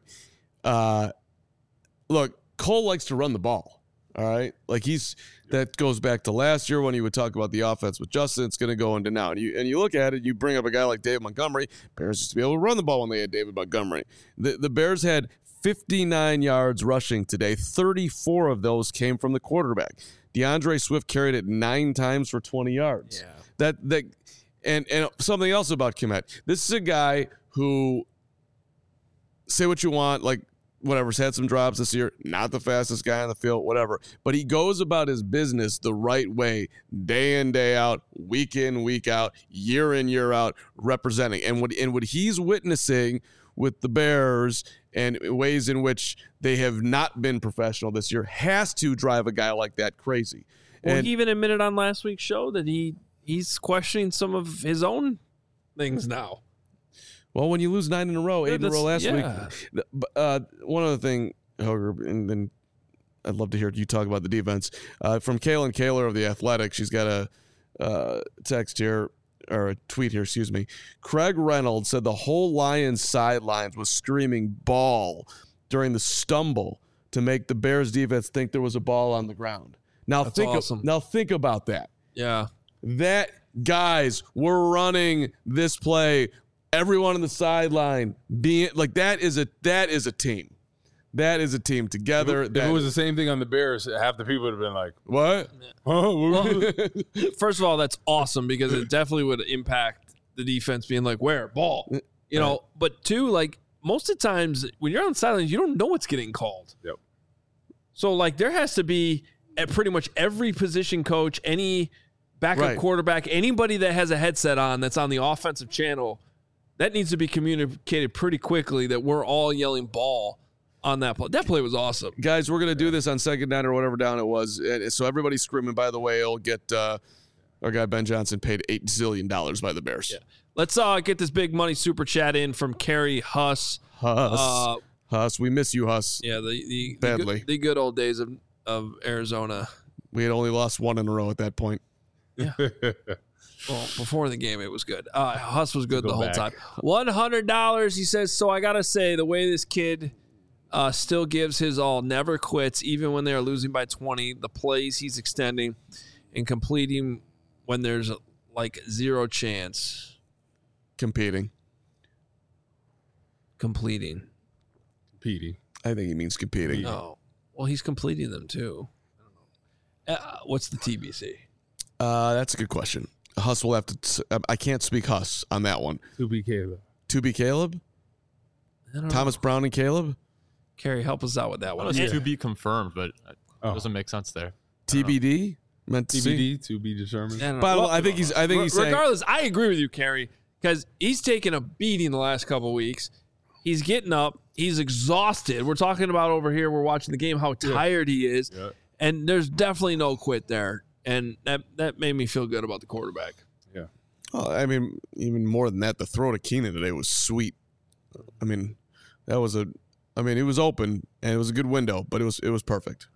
look, Cole likes to run the ball. All right. Like that goes back to last year when he would talk about the offense with Justin. It's going to go into now. And you look at it, you bring up a guy like David Montgomery. Bears used to be able to run the ball when they had David Montgomery. The Bears had 59 yards rushing today. 34 of those came from the quarterback. DeAndre Swift carried it 9 times for 20 yards. Yeah. And something else about Kmet. This is a guy who, say what you want, like, whatever's had some drops this year, not the fastest guy on the field, whatever. But he goes about his business the right way, day in, day out, week in, week out, year in, year out, representing. And what he's witnessing with the Bears and ways in which they have not been professional this year has to drive a guy like that crazy. Well, he even admitted on last week's show that he's questioning some of his own things now. Well, when you lose 9 in a row, 8 in a row last week. One other thing, Hoger, and then I'd love to hear you talk about the defense. From Kaylin Kaler of The Athletic, she's got a text here, or a tweet here, excuse me. Craig Reynolds said the whole Lions sidelines was screaming ball during the stumble to make the Bears defense think there was a ball on the ground. Now think about that. Yeah. That guys were running this play. Everyone on the sideline being like that is a team. That is a team together. If it was the same thing on the Bears, half the people would have been like, "What?" Well, first of all, that's awesome because it definitely would impact the defense being like, "Where ball?" You know. But two, like most of the times when you're on the sidelines, you don't know what's getting called. Yep. So like there has to be at pretty much every position coach, any backup quarterback, anybody that has a headset on that's on the offensive channel. That needs to be communicated pretty quickly that we're all yelling ball on that play. That play was awesome. Guys, we're going to do this on second down or whatever down it was. So everybody's screaming, by the way, it'll get our guy Ben Johnson paid $8 zillion by the Bears. Yeah. Let's get this big money super chat in from Kerry Huss. Huss, we miss you, Huss. Yeah, badly. The good old days of Arizona. We had only lost 1 in a row at that point. Yeah. Well, before the game, it was good. Huss was good the whole time. $100, he says, so I got to say, the way this kid still gives his all, never quits, even when they're losing by 20, the plays he's extending and completing when there's like zero chance. Completing. I think he means competing. No. Well, he's completing them too. I don't know. What's the TBC? That's a good question. Huss will have to. I can't speak Huss on that one. To be Caleb. Thomas Brown and Caleb. Carrie, help us out with that one. To be confirmed, but it doesn't make sense there. TBD meant to TBD to be determined. By the way, I think he's regardless. I agree with you, Carrie, because he's taken a beating the last couple of weeks. He's getting up. He's exhausted. We're talking about over here. We're watching the game. How tired he is, and there's definitely no quit there. And that made me feel good about the quarterback. Yeah. Oh, I mean, even more than that, the throw to Keenan today was sweet. I mean, it was open and it was a good window, but it was perfect.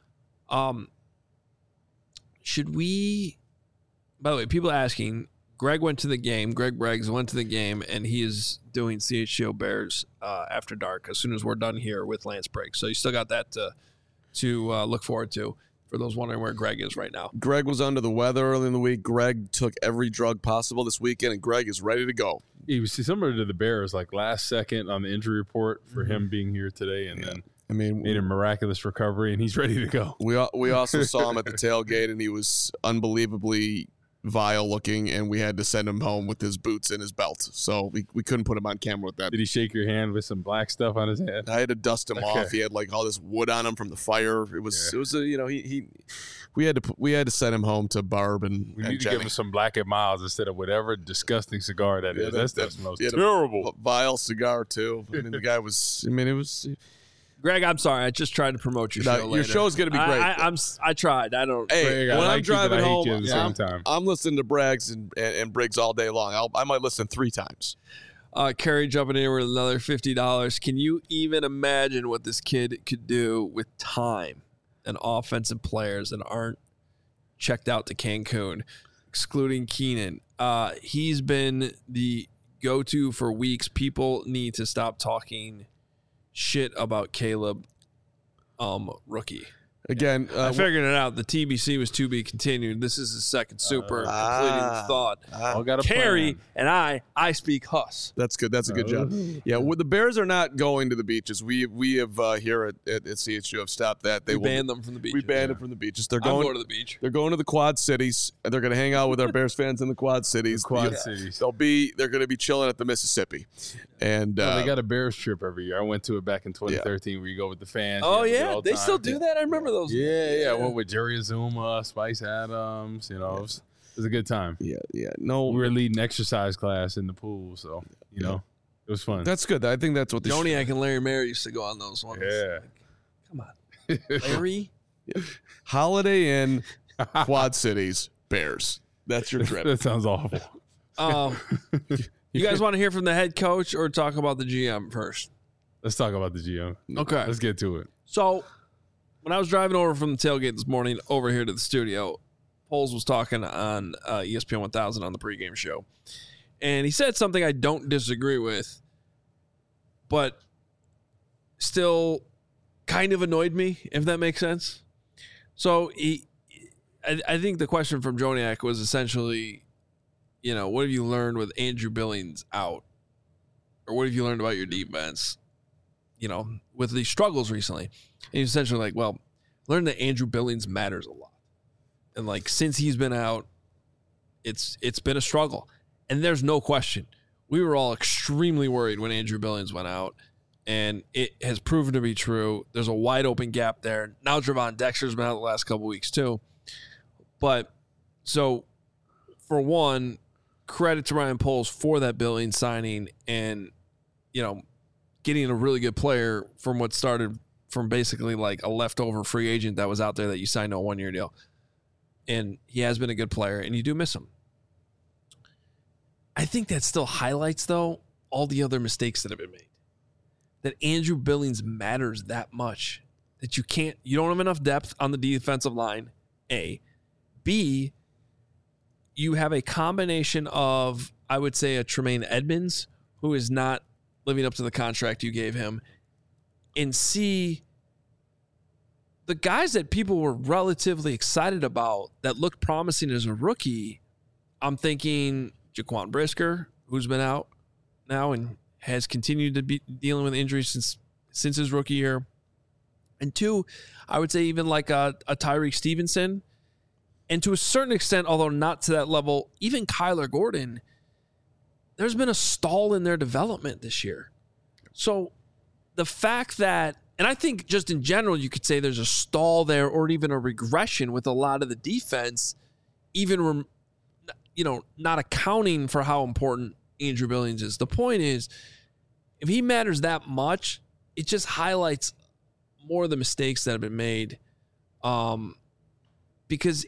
Should we? By the way, people asking. Greg went to the game. Greg Braggs went to the game, and he is doing CHGO Bears after dark as soon as we're done here with Lance Briggs. So you still got that to look forward to. For those wondering where Greg is right now. Greg was under the weather early in the week. Greg took every drug possible this weekend, and Greg is ready to go. He was similar to the Bears, like last second on the injury report for him being here today, and then made a miraculous recovery, and he's ready to go. We also saw him at the tailgate, and he was unbelievably vile looking, and we had to send him home with his boots and his belt. So we couldn't put him on camera with that. Did he shake your hand with some black stuff on his head? I had to dust him off. He had like all this wood on him from the fire. It was we had to send him home to Barb and we need to Jenny. give him some Black & Milds instead of whatever disgusting cigar that is. That's the most he had terrible. a vile cigar too. I mean, the guy was. I mean, it was. Greg, I'm sorry. I just tried to promote your show. Your later. show's gonna be great. I tried. I don't. Hey, Greg, when I'm you, driving but I hate home, you at the same time. I'm listening to Braggs and Briggs all day long. I might listen 3 times. Kerry jumping in with another $50. Can you even imagine what this kid could do with time and offensive players that aren't checked out to Cancun, excluding Keenan? He's been the go-to for weeks. People need to stop talking shit about Caleb, rookie. Again, I figured it out. The TBC was to be continued. This is the second super completing the thought. Kerry and I speak Huss. That's good. That's a good job. Yeah, well, the Bears are not going to the beaches. We have here at CHU have stopped that. We banned them from the beaches. We banned them from the beaches. They're I'm going going to the beach. They're going to the Quad Cities, and they're going to hang out with our Bears fans in the Quad Cities. Cities. They're going to be chilling at the Mississippi, and they got a Bears trip every year. I went to it back in 2013, where you go with the fans. Oh yeah, they still do that. I remember those. Yeah. I went with Jerry Azuma, Spice Adams. You know, it was a good time. Yeah. No, we were leading exercise class in the pool, so it was fun. That's good. I think that's what Joniak and Larry Mary used to go on those ones. Yeah. Come on, Larry. Holiday Inn, Quad Cities, Bears. That's your trip. That sounds awful. You guys want to hear from the head coach or talk about the GM first? Let's talk about the GM. Okay. Let's get to it. So, when I was driving over from the tailgate this morning over here to the studio, Poles was talking on ESPN 1000 on the pregame show. And he said something I don't disagree with, but still kind of annoyed me, if that makes sense. So, I think the question from Joniak was essentially, what have you learned with Andrew Billings out? Or what have you learned about your defense, with these struggles recently? And he's essentially like, well, learn that Andrew Billings matters a lot. And since he's been out, it's been a struggle. And there's no question. We were all extremely worried when Andrew Billings went out. And it has proven to be true. There's a wide open gap there. Now Javon Dexter's been out the last couple weeks too. But so for one, credit to Ryan Poles for that Billings signing and, getting a really good player from what started from basically like a leftover free agent that was out there that you signed to a 1-year deal. And he has been a good player, and you do miss him. I think that still highlights, though, all the other mistakes that have been made. That Andrew Billings matters that much. That you don't have enough depth on the defensive line, A. B, you have a combination of, I would say, a Tremaine Edmonds, who is not living up to the contract you gave him. And C, the guys that people were relatively excited about that looked promising as a rookie, I'm thinking Jaquan Brisker, who's been out now and has continued to be dealing with injuries since his rookie year. And 2, I would say even like a Tyreek Stevenson. And to a certain extent, although not to that level, even Kyler Gordon, there's been a stall in their development this year. So the fact that, and I think just in general, you could say there's a stall there or even a regression with a lot of the defense, even, not accounting for how important Andrew Billings is. The point is, if he matters that much, it just highlights more of the mistakes that have been made. Because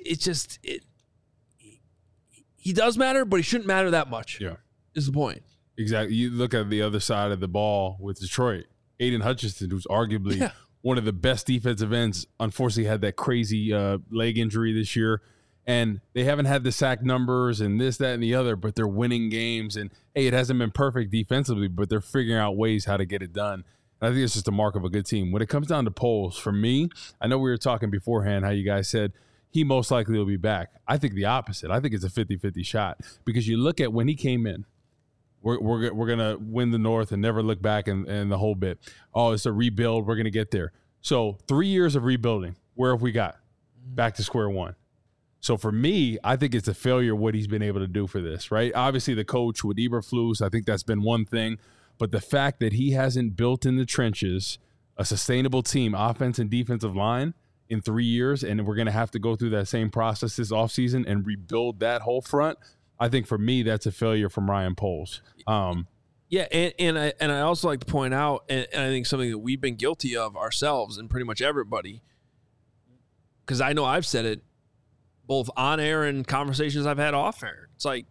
he does matter, but he shouldn't matter that much. Yeah. Is the point. Exactly. You look at the other side of the ball with Detroit. Aiden Hutchinson, who's arguably one of the best defensive ends, unfortunately had that crazy leg injury this year. And they haven't had the sack numbers and this, that, and the other, but they're winning games. And, hey, it hasn't been perfect defensively, but they're figuring out ways how to get it done. And I think it's just a mark of a good team. When it comes down to Poles, for me, I know we were talking beforehand how you guys said he most likely will be back. I think the opposite. I think it's a 50-50 shot because you look at when he came in, we're going to win the North and never look back and the whole bit. Oh, it's a rebuild. We're going to get there. So 3 years of rebuilding. Where have we got? Back to square one. So for me, I think it's a failure what he's been able to do for this, right? Obviously, the coach with Eberflus, I think that's been one thing. But the fact that he hasn't built in the trenches a sustainable team, offense and defensive line, in 3 years, and we're going to have to go through that same process this offseason and rebuild that whole front, I think for me, that's a failure from Ryan Poles. Yeah, and I also like to point out, and I think something that we've been guilty of ourselves and pretty much everybody, because I know I've said it both on air and conversations I've had off air. It's like,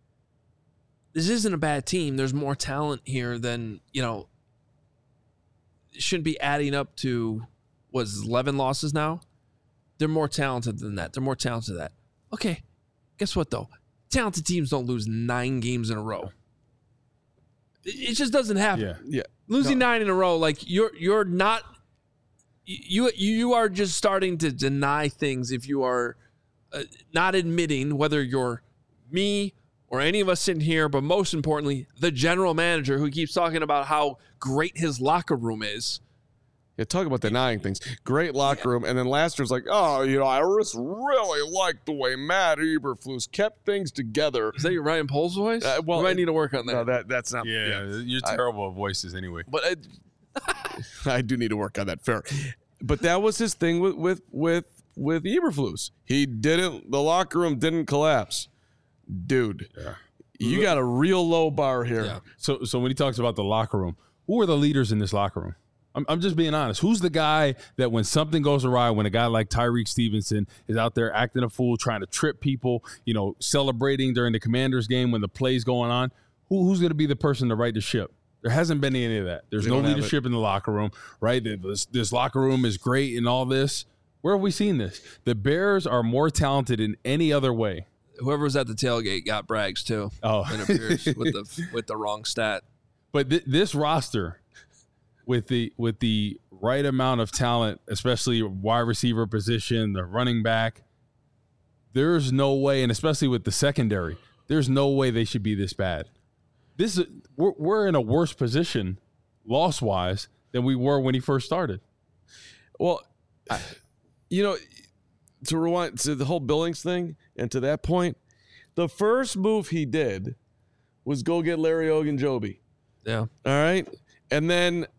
this isn't a bad team. There's more talent here than, it shouldn't be adding up to, 11 losses now? They're more talented than that. They're more talented than that. Okay, guess what, though? Talented teams don't lose 9 games in a row. It just doesn't happen. Yeah. Losing 9 in a row, like you're not. You are just starting to deny things if you are not admitting, whether you're me or any of us sitting here, but most importantly, the general manager who keeps talking about how great his locker room is. Yeah, talk about denying things. Great locker room. And then last year's like, I just really like the way Matt Eberflus kept things together. Is that your Ryan Poles voice? Well, you might need to work on that. No, that's not. Yeah, you're terrible at voices anyway. But I do need to work on that. Fair. But that was his thing with Eberflus. The locker room didn't collapse. Dude, you got a real low bar here. Yeah. So when he talks about the locker room, who are the leaders in this locker room? I'm just being honest. Who's the guy that when something goes awry, when a guy like Tyreek Stevenson is out there acting a fool, trying to trip people, celebrating during the Commanders game when the play's going on, who's going to be the person to right the ship? There hasn't been any of that. There's no leadership in the locker room, right? This locker room is great and all this. Where have we seen this? The Bears are more talented in any other way. Whoever was at the tailgate got brags too. Oh, it appears with the wrong stat. But this roster, with the right amount of talent, especially wide receiver position, the running back, there's no way, and especially with the secondary, there's no way they should be this bad. We're in a worse position, loss-wise, than we were when he first started. Well, to rewind to the whole Billings thing, and to that point, the first move he did was go get Larry Ogunjobi. Yeah. All right? And then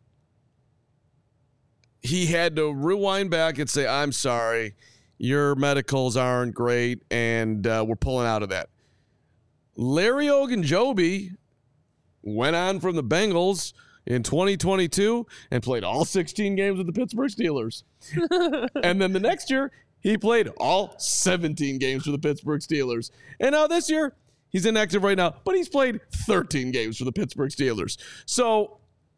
he had to rewind back and say, I'm sorry, your medicals aren't great, and we're pulling out of that. Larry Ogunjobi went on from the Bengals in 2022 and played all 16 games with the Pittsburgh Steelers. And then the next year, he played all 17 games for the Pittsburgh Steelers. And now this year, he's inactive right now, but he's played 13 games for the Pittsburgh Steelers. So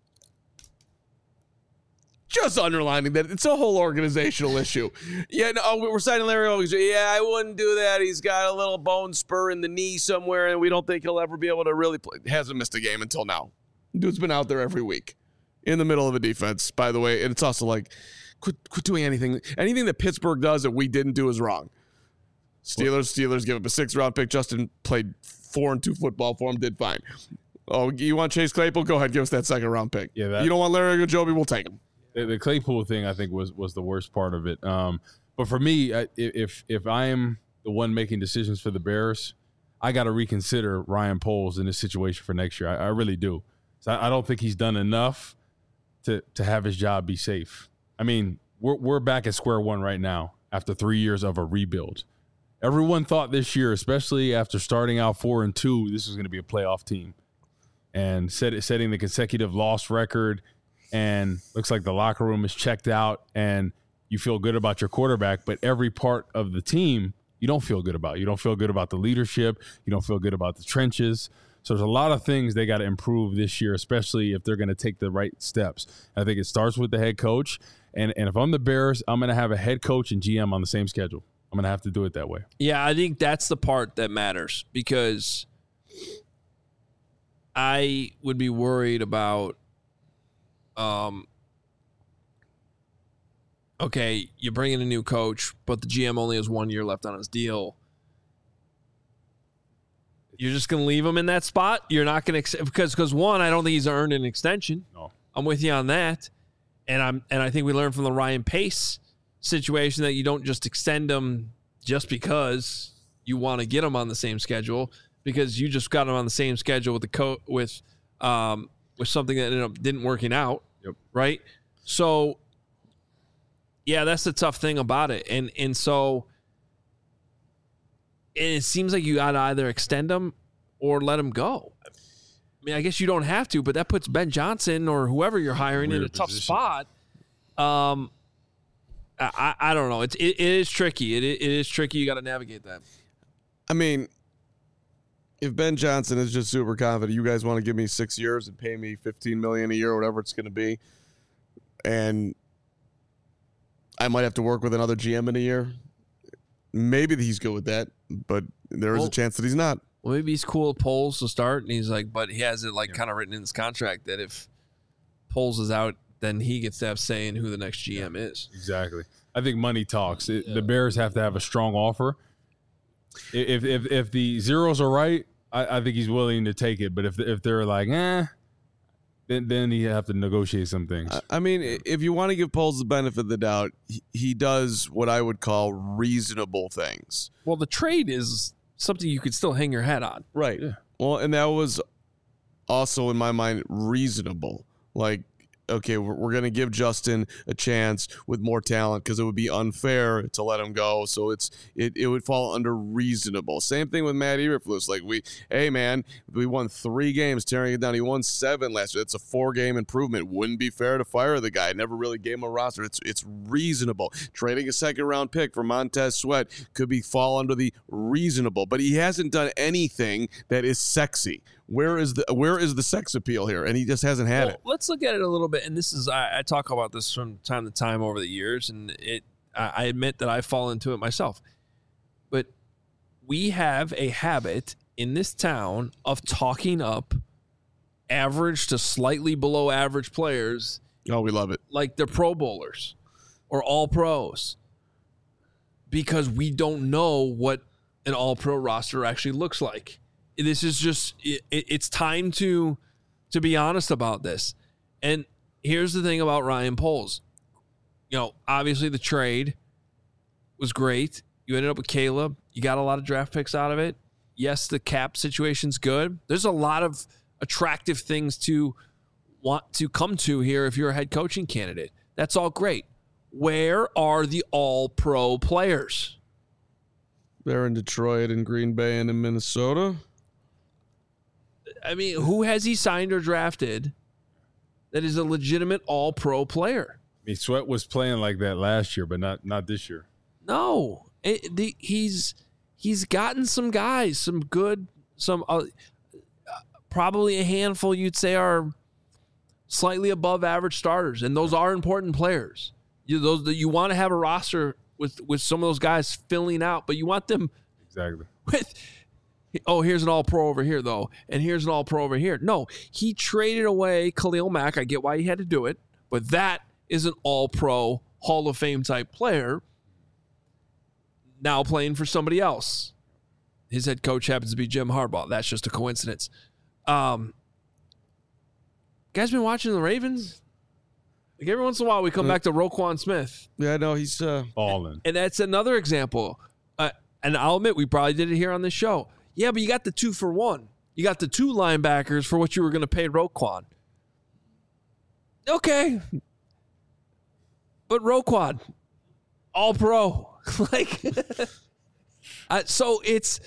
just underlining that it's a whole organizational issue. Yeah, no, we're signing Larry Owens. Yeah, I wouldn't do that. He's got a little bone spur in the knee somewhere, and we don't think he'll ever be able to really play. Hasn't missed a game until now. Dude's been out there every week in the middle of a defense, by the way. And it's also like, quit doing anything. Anything that Pittsburgh does that we didn't do is wrong. Steelers give up a 6th-round pick. Justin played 4-2 football for him, did fine. Oh, you want Chase Claypool? Go ahead, give us that 2nd-round pick. Yeah, you don't want Larry Ogunjobi? We'll take him. The Claypool thing, I think, was the worst part of it. But for me, if I am the one making decisions for the Bears, I got to reconsider Ryan Poles in this situation for next year. I really do. So I don't think he's done enough to have his job be safe. I mean, we're back at square one right now after 3 years of a rebuild. Everyone thought this year, especially after starting out 4-2, this was going to be a playoff team. And setting the consecutive loss record, and looks like the locker room is checked out, and you feel good about your quarterback, but every part of the team you don't feel good about. You don't feel good about the leadership. You don't feel good about the trenches. So there's a lot of things they got to improve this year, especially if they're going to take the right steps. I think it starts with the head coach. And if I'm the Bears, I'm going to have a head coach and GM on the same schedule. I'm going to have to do it that way. Yeah, I think that's the part that matters, because I would be worried about, okay, you bring in a new coach, but the GM only has 1 year left on his deal. You're just going to leave him in that spot? You're not going to, because one, I don't think he's earned an extension. No. I'm with you on that. And I think we learned from the Ryan Pace situation that you don't just extend him just because you want to get them on the same schedule, because you just got them on the same schedule with the with something that ended up didn't working out. Yep. Right. So, yeah, that's the tough thing about it. And so it seems like you got to either extend them or let them go. I mean, I guess you don't have to, but that puts Ben Johnson or whoever you're hiring in a tough spot. I don't know. It is tricky. It is tricky. You got to navigate that. I mean, if Ben Johnson is just super confident, you guys want to give me 6 years and pay me $15 million a year, or whatever it's going to be, and I might have to work with another GM in a year. Maybe he's good with that, but there is a chance that he's not. Well, maybe he's cool with Poles to start, and he's like, but he has it kind of written in his contract that if Poles is out, then he gets to have say in who the next GM is. Exactly. I think money talks. The Bears have to have a strong offer. If the zeros are right, I think he's willing to take it. But if they're like, then you have to negotiate some things. I mean, if you want to give Poles the benefit of the doubt, he does what I would call reasonable things. Well, the trade is something you could still hang your hat on. Right. Yeah. Well, and that was also, in my mind, reasonable. Like, okay, we're going to give Justin a chance with more talent because it would be unfair to let him go. So it would fall under reasonable. Same thing with Matt Eberflus. Like, hey, man, we won 3 games tearing it down. He won 7 last year. It's a 4-game improvement. Wouldn't be fair to fire the guy. Never really gave him a roster. It's reasonable. Trading a second-round pick for Montez Sweat could fall under the reasonable. But he hasn't done anything that is sexy. Where is the sex appeal here? And he just hasn't had it. Let's look at it a little bit. And this is, I talk about this from time to time over the years, and I admit that I fall into it myself. But we have a habit in this town of talking up average to slightly below average players. Oh, we love it. Like they're Pro Bowlers or All Pros, because we don't know what an All Pro roster actually looks like. This is just, it's time to be honest about this. And here's the thing about Ryan Poles. Obviously the trade was great. You ended up with Caleb. You got a lot of draft picks out of it. Yes, the cap situation's good. There's a lot of attractive things to want to come to here if you're a head coaching candidate. That's all great. Where are the all-pro players? They're in Detroit and Green Bay and in Minnesota. I mean, who has he signed or drafted that is a legitimate all-pro player? I mean, Sweat was playing like that last year, but not this year. No. He's gotten some guys, some good, probably a handful you'd say are slightly above average starters, and those are important players. You want to have a roster with some of those guys filling out, but you want them exactly with – here's an all-pro over here, though, and here's an all-pro over here. No, he traded away Khalil Mack. I get why he had to do it, but that is an all-pro, Hall of Fame type player now playing for somebody else. His head coach happens to be Jim Harbaugh. That's just a coincidence. Guys been watching the Ravens? Like every once in a while, we come back to Roquan Smith. Yeah, no, he's balling. And that's another example. And I'll admit, we probably did it here on this show. Yeah, but you got the 2-for-1. You got the 2 linebackers for what you were going to pay Roquan. Okay. But Roquan, all pro. So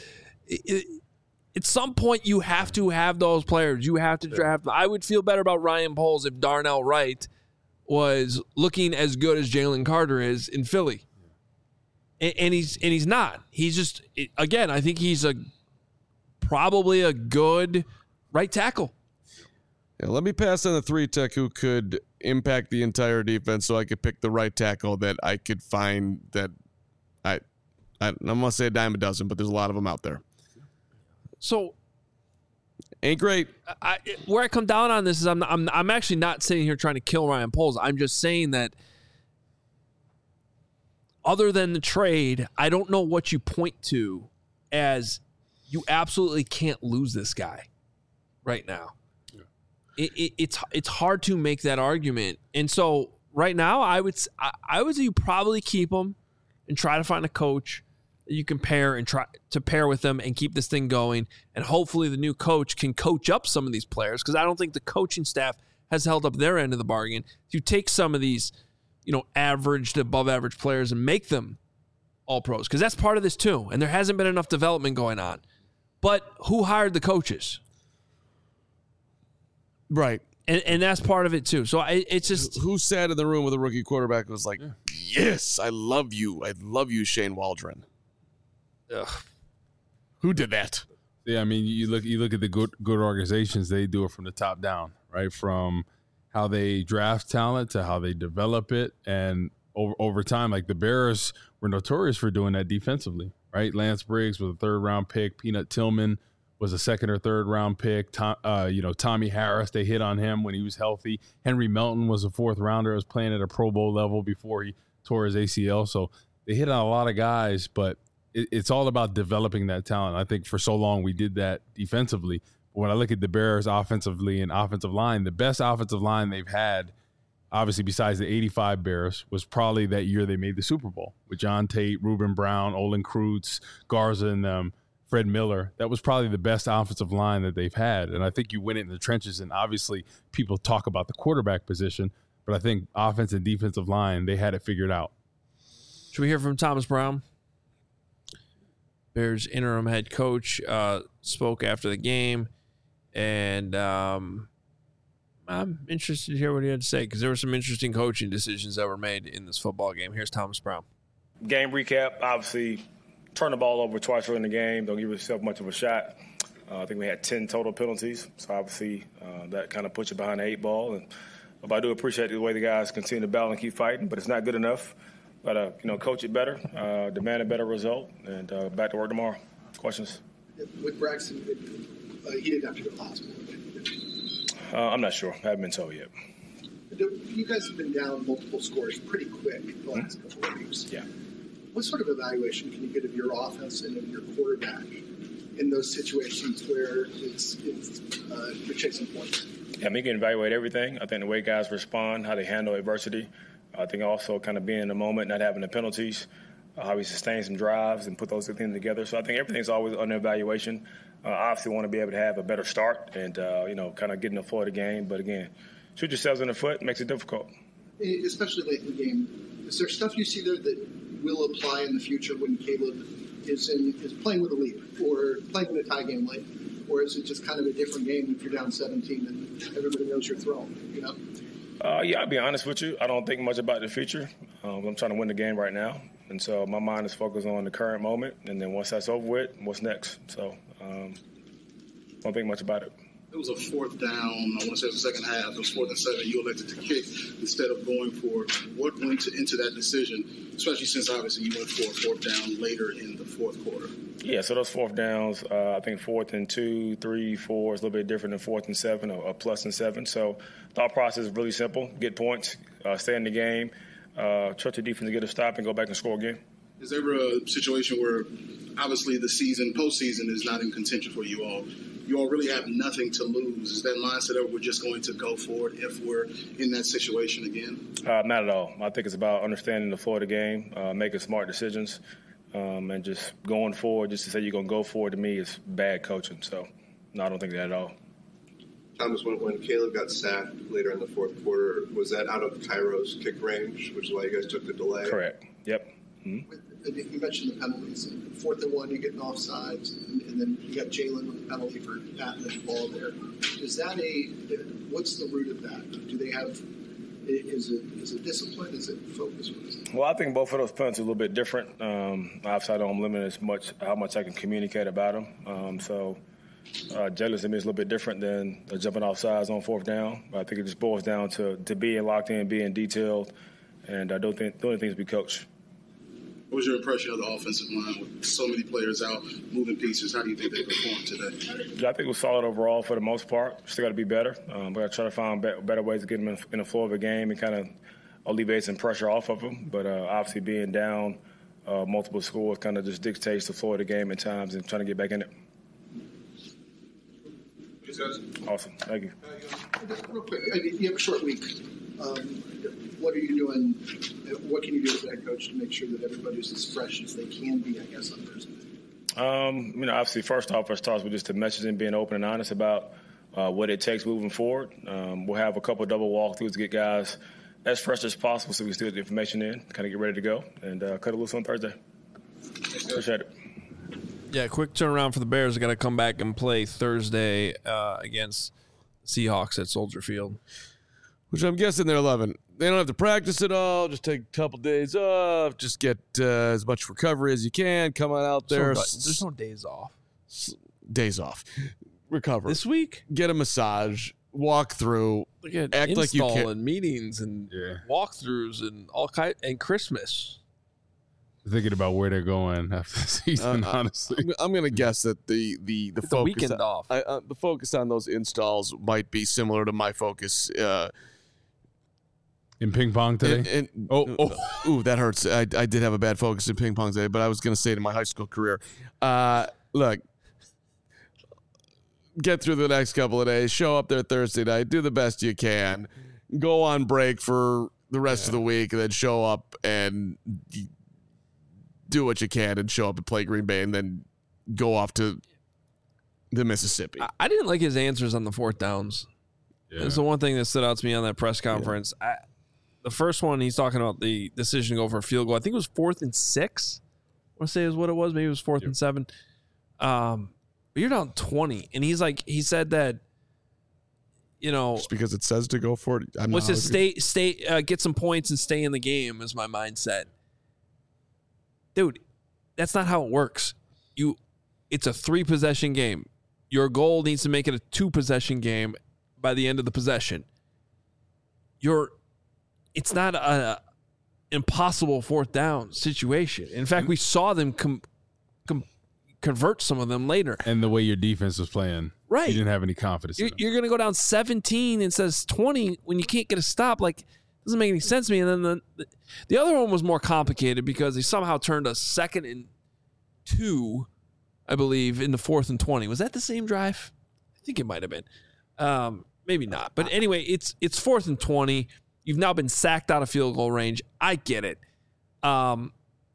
at some point you have to have those players. You have to draft. I would feel better about Ryan Poles if Darnell Wright was looking as good as Jalen Carter is in Philly. And he's not. He's just, again, I think he's probably a good right tackle. Yeah, let me pass on the 3-tech who could impact the entire defense so I could pick the right tackle that I could find that I'm going to say a dime a dozen, but there's a lot of them out there. So ain't great. Where I come down on this is I'm actually not sitting here trying to kill Ryan Poles. I'm just saying that other than the trade, I don't know what you point to as you absolutely can't lose this guy right now. Yeah. It's hard to make that argument. And so right now I would say you probably keep him and try to find a coach that you can pair and try to pair with them and keep this thing going. And hopefully the new coach can coach up some of these players, because I don't think the coaching staff has held up their end of the bargain. You take some of these, average to above average players and make them all pros, because that's part of this too. And there hasn't been enough development going on. But who hired the coaches? Right. And that's part of it too. So it's just, who sat in the room with a rookie quarterback and was like, yes, I love you. I love you, Shane Waldron. Ugh. Who did that? Yeah, I mean, you look at the good organizations, they do it from the top down, right? From how they draft talent to how they develop it. And over time, like the Bears were notorious for doing that defensively, right? Lance Briggs was a 3rd-round pick. Peanut Tillman was a 2nd or 3rd-round pick. Tommy Harris, they hit on him when he was healthy. Henry Melton was a 4th-rounder. Was playing at a Pro Bowl level before he tore his ACL. So they hit on a lot of guys, but it's all about developing that talent. I think for so long we did that defensively. But when I look at the Bears offensively and offensive line, the best offensive line they've had, obviously besides the 85 Bears, was probably that year they made the Super Bowl with John Tate, Reuben Brown, Olin Kreutz, Garza, and Fred Miller. That was probably the best offensive line that they've had. And I think you win it in the trenches. And obviously people talk about the quarterback position, but I think offense and defensive line, they had it figured out. Should we hear from Thomas Brown? Bears interim head coach spoke after the game. And I'm interested to hear what he had to say, because there were some interesting coaching decisions that were made in this football game. Here's Thomas Brown. Game recap, obviously, turn the ball over twice early in the game. Don't give yourself much of a shot. I think we had 10 total penalties. So, obviously, that kind of puts you behind the 8 ball. And I do appreciate the way the guys continue to battle and keep fighting, but it's not good enough. Got to, coach it better, demand a better result, and back to work tomorrow. Questions? With Braxton, he didn't have to go to the hospital. I'm not sure. I haven't been told yet. You guys have been down multiple scores pretty quick the last couple of weeks. Yeah. What sort of evaluation can you get of your offense and of your quarterback in those situations where you're chasing points? Yeah, you can evaluate everything. I think the way guys respond, how they handle adversity. I think also kind of being in the moment, not having the penalties, how we sustain some drives and put those things together. So I think everything's always under evaluation. Obviously want to be able to have a better start and, kind of get in the flow of the game. But, again, shoot yourselves in the foot makes it difficult. Especially late in the game. Is there stuff you see there that will apply in the future when Caleb is playing with a lead or playing in a tie game late? Or is it just kind of a different game if you're down 17 and everybody knows you're throwing, Yeah, I'll be honest with you. I don't think much about the future. I'm trying to win the game right now. And so my mind is focused on the current moment. And then once that's over with, what's next? So don't think much about it. It was a 4th down. I want to say it was the second half. It was 4th and 7. You elected to kick instead of going for it. What went into that decision, especially since obviously you went for a 4th down later in the 4th quarter? Yeah, so those 4th downs, I think 4th and 2, 3, 4 is a little bit different than 4th and 7 or plus and 7. So thought process is really simple. Get points, stay in the game, trust your defense to get a stop and go back and score again. Is there ever a situation where obviously the postseason is not in contention for you all? You all really have nothing to lose. Is that mindset that we're just going to go for it if we're in that situation again? Not at all. I think it's about understanding the flow of the game, making smart decisions, and just going forward. Just to say you're going to go forward to me is bad coaching. So, no, I don't think that at all. Thomas, when Caleb got sacked later in the 4th quarter, was that out of Cairo's kick range, which is why you guys took the delay? Correct. Yep. Mm-hmm. You mentioned the penalties. 4th and 1, you get offsides, and then you got Jalen with the penalty for patting the ball there. Is that what's the root of that? Do they have? Is it discipline? Is it focus? Well, I think both of those penalties are a little bit different. Obviously, I don't limit as much how much I can communicate about them. So Jalen's to me is a little bit different than jumping off sides on 4th down. But I think it just boils down to being locked in, being detailed, and I don't think the only thing is be coached. What was your impression of the offensive line with so many players out, moving pieces? How do you think they performed today? Yeah, I think it was solid overall for the most part. Still got to be better. We got to try to find better ways to get them in the flow of the game and kind of alleviate some pressure off of them. But obviously being down multiple scores kind of just dictates the flow of the game at times and trying to get back in it. Awesome. Thank you. Real quick, you have a short week. What are you doing What can you do as a head coach to make sure that everybody's as fresh as they can be, I guess, on Thursday? Obviously, first off, it starts with just the messaging, being open and honest about what it takes moving forward. We'll have a couple of double walkthroughs to get guys as fresh as possible so we can still get the information in, kind of get ready to go, and cut it loose on Thursday. Appreciate it. Yeah, quick turnaround for the Bears. They got to come back and play Thursday against the Seahawks at Soldier Field. Which I'm guessing they're 11. They don't have to practice at all. Just take a couple days off. Just get as much recovery as you can. Come on out there. There's no days off. Days off. Recover. This week? Get a massage. Walk through. Act like you can. And meetings and walkthroughs and and Christmas. Thinking about where they're going after the season, honestly. I'm going to guess that the focus weekend off. The focus on those installs might be similar to my focus in ping pong today. Ooh, that hurts. I did have a bad focus in ping pong today, but I was going to say it in my high school career. Look, get through the next couple of days. Show up there Thursday night. Do the best you can. Go on break for the rest of the week, and then show up and do what you can and show up and play Green Bay and then go off to the Mississippi. I didn't like his answers on the fourth downs. Yeah. It's the one thing that stood out to me on that press conference. Yeah. The first one, he's talking about the decision to go for a field goal. I think it was 4th and 6. I want to say is what it was. Maybe it was 4th and 7. But you're down 20. And he said that, just because it says to go for it. Let's just get some points and stay in the game is my mindset. Dude, that's not how it works. It's a 3-possession game. Your goal needs to make it a 2-possession game by the end of the possession. It's not an impossible 4th down situation. In fact, we saw them convert some of them later. And the way your defense was playing, right? You didn't have any confidence. You're going to go down 17 instead of 20 when you can't get a stop. Doesn't make any sense to me. And then the other one was more complicated because they somehow turned a 2nd and 2, I believe, into 4th and 20. Was that the same drive? I think it might have been. Maybe not. But anyway, it's 4th and 20. You've now been sacked out of field goal range. I get it. But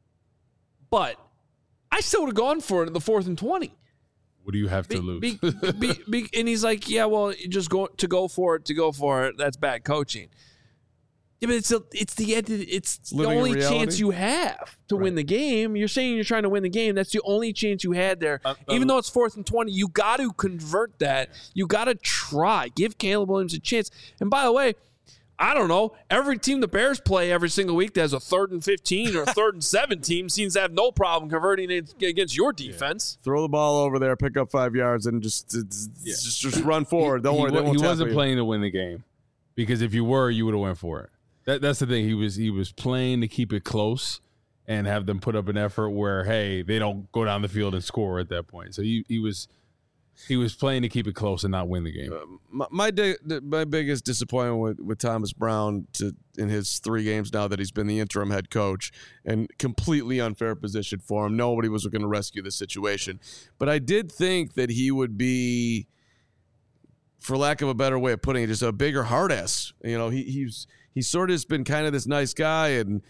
I still would have gone for it in the 4th and 20. What do you have to lose? And he's like, yeah, well, just go for it. That's bad coaching. Yeah, but it's the only chance you have to win the game. You're saying you're trying to win the game. That's the only chance you had there. Even though it's 4th and 20, you got to convert that. You got to try. Give Caleb Williams a chance. And by the way, I don't know. Every team the Bears play every single week that has a 3rd and 15 or 3rd and 7 team seems to have no problem converting it against your defense. Yeah. Throw the ball over there, pick up 5 yards, and just run forward. Don't worry. He wasn't playing to win the game because if you were, you would have went for it. That's the thing. He was playing to keep it close and have them put up an effort where, hey, they don't go down the field and score at that point. So he was playing to keep it close and not win the game. My biggest disappointment with Thomas Brown in his 3 games now that he's been the interim head coach, and completely unfair position for him. Nobody was going to rescue the situation. But I did think that he would be, for lack of a better way of putting it, just a bigger hard ass. He's sort of just been kind of this nice guy, and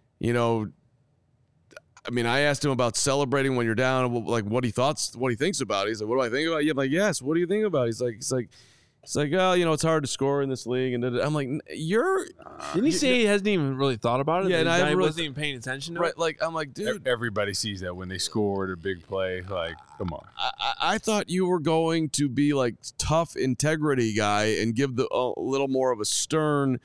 I asked him about celebrating when you're down, like what he thinks about it. He's like, "What do I think about it?" I'm like, "Yes, what do you think about it?" He's like, "Oh, it's hard to score in this league." And I'm like, Didn't he say he hasn't even really thought about it? Yeah, and I wasn't even paying attention to it. Like, I'm like, dude, everybody sees that when they scored a big play. Like, come on. I thought you were going to be like tough integrity guy and give a little more of a stern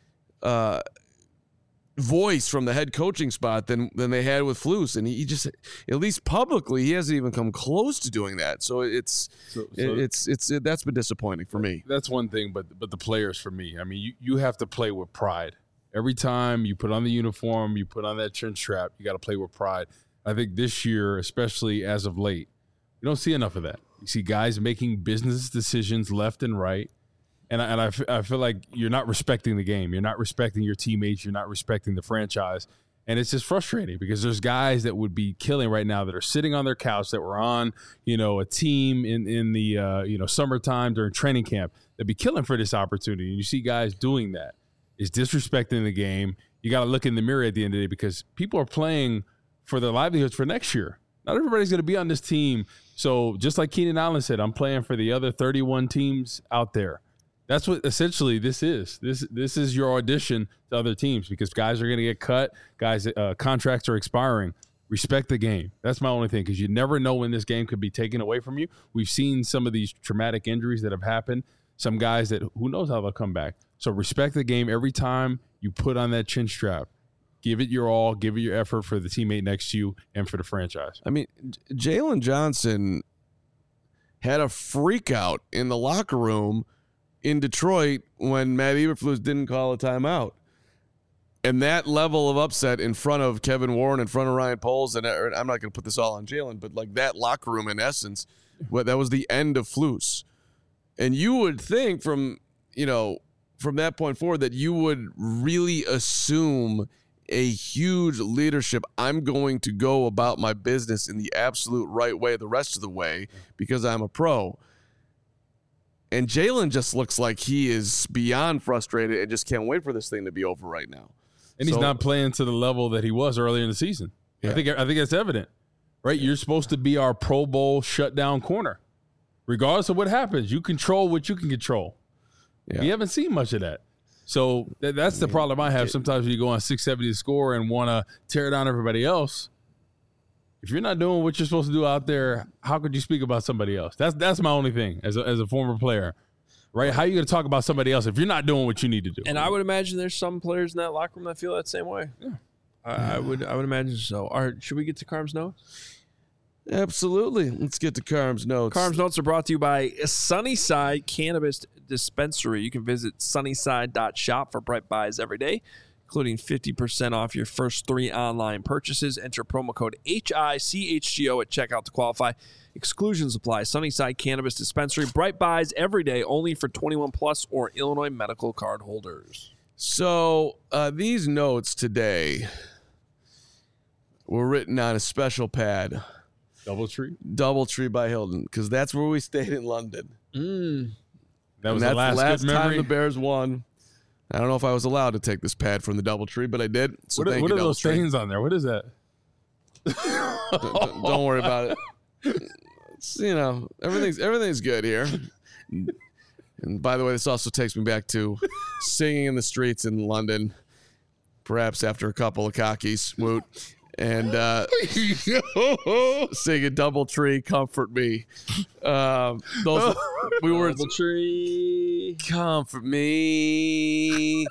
voice from the head coaching spot than they had with Flus, and he just, at least publicly, he hasn't even come close to doing that. So it's that's been disappointing for me. That's one thing, but the players for me, I mean, you have to play with pride. Every time you put on the uniform, you put on that chin strap, you got to play with pride. I think this year, especially as of late, you don't see enough of that. You see guys making business decisions left and right. And I feel like you're not respecting the game. You're not respecting your teammates. You're not respecting the franchise. And it's just frustrating because there's guys that would be killing right now that are sitting on their couch that were on, a team in the, summertime during training camp. They'd be killing for this opportunity. And you see guys doing that. It's disrespecting the game. you got to look in the mirror at the end of the day because people are playing for their livelihoods for next year. Not everybody's going to be on this team. So just like Keenan Allen said, I'm playing for the other 31 teams out there. That's what essentially this is. This is your audition to other teams because guys are going to get cut. Guys, contracts are expiring. Respect the game. That's my only thing because you never know when this game could be taken away from you. We've seen some of these traumatic injuries that have happened. Some guys that who knows how they'll come back. So respect the game every time you put on that chin strap. Give it your all. Give it your effort for the teammate next to you and for the franchise. I mean, Jalen Johnson had a freak out in the locker room in Detroit when Matt Eberflus didn't call a timeout. And that level of upset in front of Kevin Warren, in front of Ryan Poles, and I'm not going to put this all on Jalen, but like that locker room in essence, that was the end of Flus. And you would think from that point forward that you would really assume a huge leadership. I'm going to go about my business in the absolute right way the rest of the way because I'm a pro. And Jalen just looks like he is beyond frustrated and just can't wait for this thing to be over right now. And he's not playing to the level that he was earlier in the season. Yeah. I think that's evident, right? You're supposed to be our Pro Bowl shutdown corner. Regardless of what happens, you control what you can control. Yeah. We haven't seen much of that. So that's the problem I have. Sometimes when you go on 670 to score and want to tear down everybody else, if you're not doing what you're supposed to do out there, how could you speak about somebody else? That's my only thing as a former player. Right? How are you going to talk about somebody else if you're not doing what you need to do? And I would imagine there's some players in that locker room that feel that same way. Yeah. I would imagine so. All right, should we get to Carm's notes? Absolutely. Let's get to Carm's notes. Carm's notes are brought to you by Sunnyside Cannabis Dispensary. You can visit sunnyside.shop for bright buys every day, including 50% off your first 3 online purchases. Enter promo code HICHGO at checkout to qualify. Exclusions apply. Sunnyside Cannabis Dispensary. Bright buys every day, only for 21 plus or Illinois medical card holders. So these notes today were written on a special pad. Doubletree by Hilton, because that's where we stayed in London. That was the last time the Bears won. I don't know if I was allowed to take this pad from the Doubletree, but I did. So what are those stains on there? What is that? Don't worry about it. It's, everything's good here. And by the way, this also takes me back to singing in the streets in London, perhaps after a couple of cockies, woot, and singing Doubletree, Comfort Me. We were Doubletree, comfort me.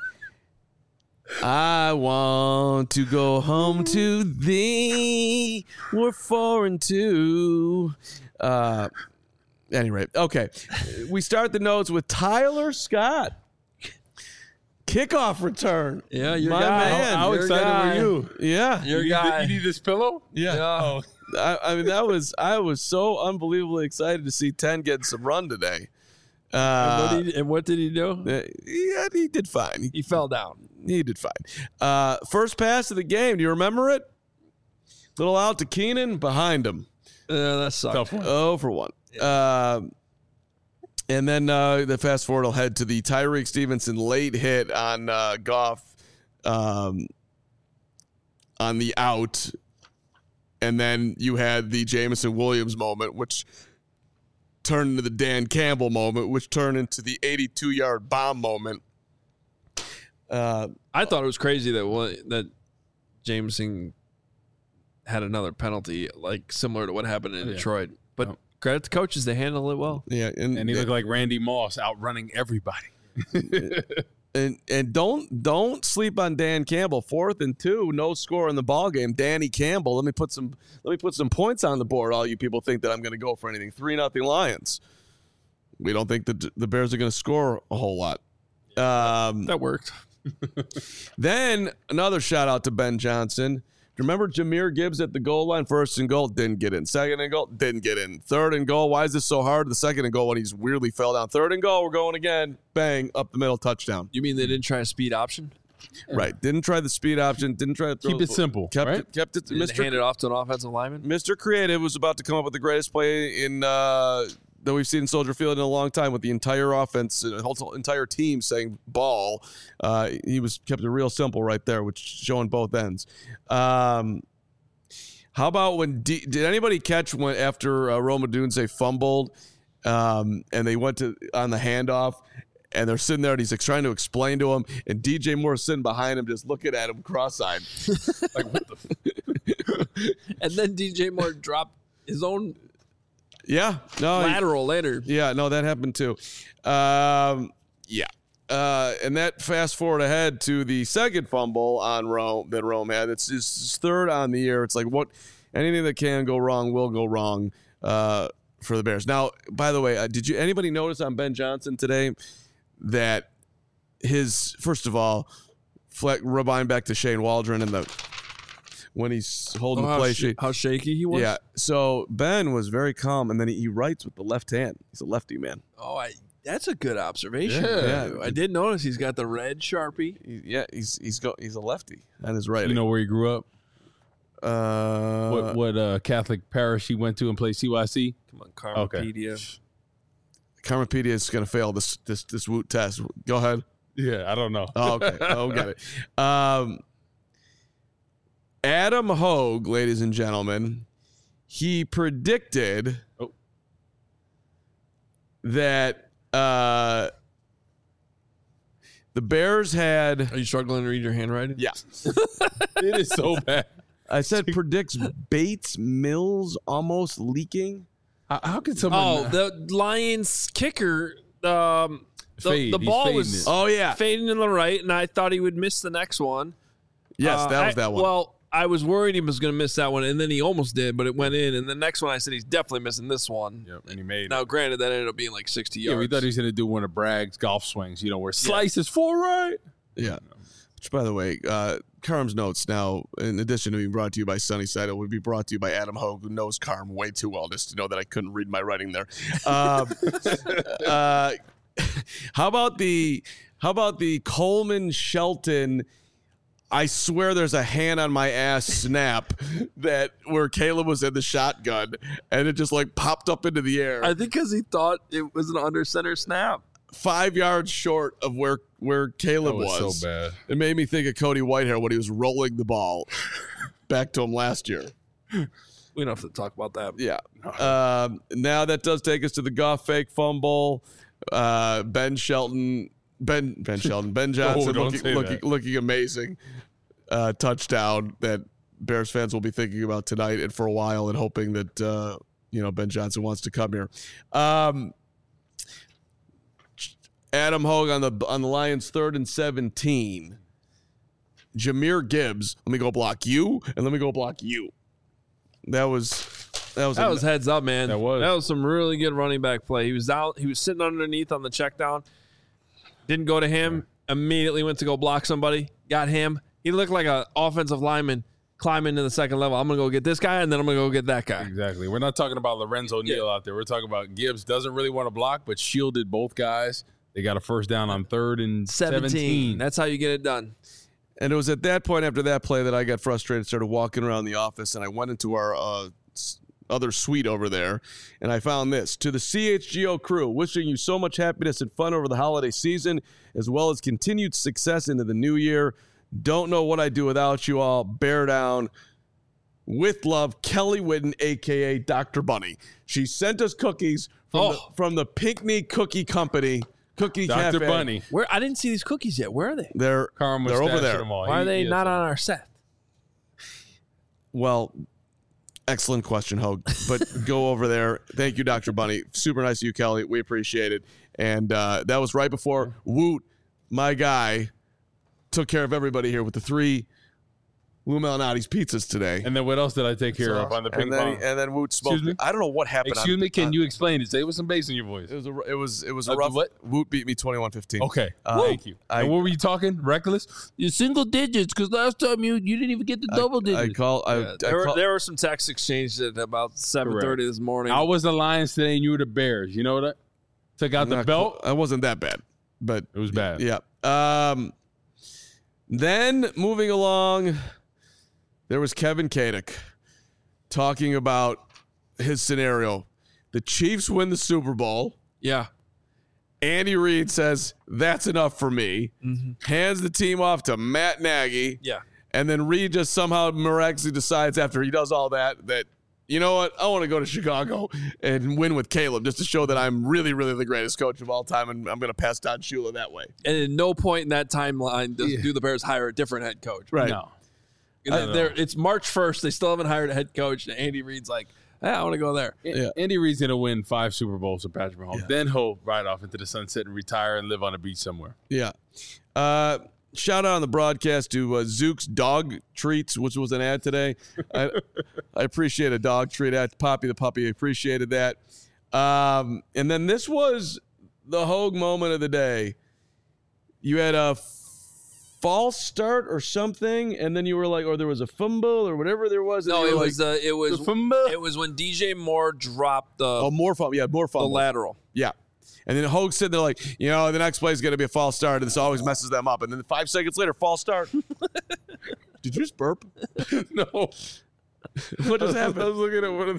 I want to go home to thee. We're 4-2. Anyway, okay. We start the notes with Tyler Scott. Kickoff return. Yeah, your My guy. man. How excited were you? Yeah. Your guy. You need this pillow? Yeah. Oh. I mean, I was so unbelievably excited to see 10 get some run today. And what did he do? Yeah, he did fine. He fell down. He did fine. First pass of the game. Do you remember it? Little out to Keenan, behind him. That sucked. 0 for 1. Yeah. And then the fast forward will head to the Tyreek Stevenson late hit on Goff on the out. And then you had the Jameson Williams moment, which turned into the Dan Campbell moment, which turned into the 82-yard bomb moment. I thought it was crazy that Jameson had another penalty, like similar to what happened in Detroit. But credit to coaches, they handle it well. Yeah, and he looked like Randy Moss outrunning everybody. And don't sleep on Dan Campbell. 4th and 2, no score in the ball game. Danny Campbell. Let me put some points on the board. All you people think that I'm going to go for anything. 3-0 Lions. We don't think that the Bears are going to score a whole lot. That worked. Then another shout out to Ben Johnson. Remember Jahmyr Gibbs at the goal line? 1st and goal, didn't get in. 2nd and goal, didn't get in. 3rd and goal, why is this so hard? The 2nd and goal when he's weirdly fell down. 3rd and goal, we're going again. Bang, up the middle, touchdown. You mean they didn't try a speed option? Right. Didn't try the speed option. Didn't try to throw Keep it simple. Kept right? it. Kept it. Hand it off to an offensive lineman? Mr. Creative was about to come up with the greatest play in that we've seen in Soldier Field in a long time with the entire offense, the whole entire team saying ball. He kept it real simple right there, which showing both ends. How about when did anybody catch when after Rome Odunze fumbled and they went on the handoff? And they're sitting there, and he's trying to explain to him, and DJ Moore sitting behind him, just looking at him cross-eyed, like what the. And then DJ Moore dropped his own. Lateral later. Yeah, no, that happened too. And that fast forward ahead to the second fumble on Rome that Rome had. It's his third on the year. It's like anything that can go wrong will go wrong for the Bears. Now, by the way, did anybody notice on Ben Johnson today that first of all, rewind back to Shane Waldron and when he's holding the play how shaky he was? Yeah. So Ben was very calm, and then he writes with the left hand. He's a lefty, man. Oh, that's a good observation. Yeah. I did notice he's got the red Sharpie. He's a lefty on his right. You know where he grew up? What Catholic parish he went to and played CYC? Come on, Karmapedia. Okay. Karmapedia is going to fail this Woot test. Go ahead. Yeah, I don't know. Oh, okay. Oh, got it. Adam Hogue, ladies and gentlemen, he predicted that the Bears had. Are you struggling to read your handwriting? Yeah. It is so bad. I said predicts Bates Mills almost leaking. How could someone? The Lions kicker. The ball was fading to the right, and I thought he would miss the next one. Yes, that was that one. Well, I was worried he was going to miss that one, and then he almost did, but it went in. And the next one, I said he's definitely missing this one. Yep, and he made. Now, granted, that ended up being like 60 yards. Yeah, we thought he was going to do one of Bragg's golf swings, where slice is full right. Yeah. Which, by the way, Carm's notes now, in addition to being brought to you by Sunnyside, it would be brought to you by Adam Hogue, who knows Carm way too well just to know that I couldn't read my writing there. How about the Coleman Shelton? I swear there's a hand on my ass snap where Caleb was in the shotgun and it just popped up into the air. I think because he thought it was an under center snap. 5 yards short of where Caleb was. So bad. It made me think of Cody Whitehair when he was rolling the ball back to him last year. We don't have to talk about that. Yeah. Now that does take us to the Goff fake fumble. Ben Johnson looking amazing. Touchdown that Bears fans will be thinking about tonight and for a while, and hoping that Ben Johnson wants to come here. Adam Hogue on the Lions 3rd and 17. Jahmyr Gibbs, let me go block you, and let me go block you. That was heads up, man. That was some really good running back play. He was out. He was sitting underneath on the check down. Didn't go to him. Immediately went to go block somebody. Got him. He looked like an offensive lineman climbing to the second level. I'm going to go get this guy, and then I'm going to go get that guy. Exactly. We're not talking about Lorenzo Neal out there. We're talking about Gibbs doesn't really want to block, but shielded both guys. They got a first down on 3rd and 17. That's how you get it done. And it was at that point after that play that I got frustrated, started walking around the office, and I went into our other suite over there, and I found this. To the CHGO crew, wishing you so much happiness and fun over the holiday season, as well as continued success into the new year. Don't know what I'd do without you all. Bear down. With love, Kelly Whitten, a.k.a. Dr. Bunny. She sent us cookies from the Pinckney Cookie Company. Cookie Dr. Cafe. Bunny. Where I didn't see these cookies yet. Where are they? They're over there. Why are they not on our set? Well, excellent question, Hogue. But go over there. Thank you, Dr. Bunny. Super nice of you, Kelly. We appreciate it. And that was right before Woot, my guy, took care of everybody here with the 3 Lou Malnati's pizzas today. And then what else did I take care of on the ping pong? And then Woot smoked. I don't know what happened. Excuse me, can you explain it? Say it with some bass in your voice. It was a rough. What? Woot beat me 21-15. Okay, thank you. And what were you talking? Reckless? You're single digits because last time you didn't even get the double digits. There were some text exchanges at about 7:30 this morning. I was the Lions today, and you were the Bears. You know that? Took out the belt. I wasn't that bad, but it was bad. Yeah. Then moving along. There was Kevin Kadick talking about his scenario. The Chiefs win the Super Bowl. Yeah. Andy Reid says, that's enough for me. Hands the team off to Matt Nagy. Yeah. And then Reid just somehow miraculously decides after he does all that, you know what? I want to go to Chicago and win with Caleb just to show that I'm really, really the greatest coach of all time, and I'm going to pass Don Shula that way. And at no point in that timeline do the Bears hire a different head coach. Right. No. It's March 1st. They still haven't hired a head coach, and Andy Reid's like, I want to go there. Yeah. Andy Reid's going to win 5 Super Bowls with Patrick Mahomes. Yeah. Then he'll ride off into the sunset and retire and live on a beach somewhere. Yeah. Shout out on the broadcast to Zook's Dog Treats, which was an ad today. I appreciate a dog treat ad. Poppy the puppy appreciated that. And then this was the Hogue moment of the day. You had a false start or something, and then you were like, or there was a fumble or whatever there was. No, it was fumble. It was when DJ Moore dropped the more fumble. Yeah, more fumble. The lateral. Yeah. And then Hogue said they're like, the next play is going to be a false start, and this always messes them up. And then 5 seconds later, false start. Did you just burp? No. What just happened? I was looking at one of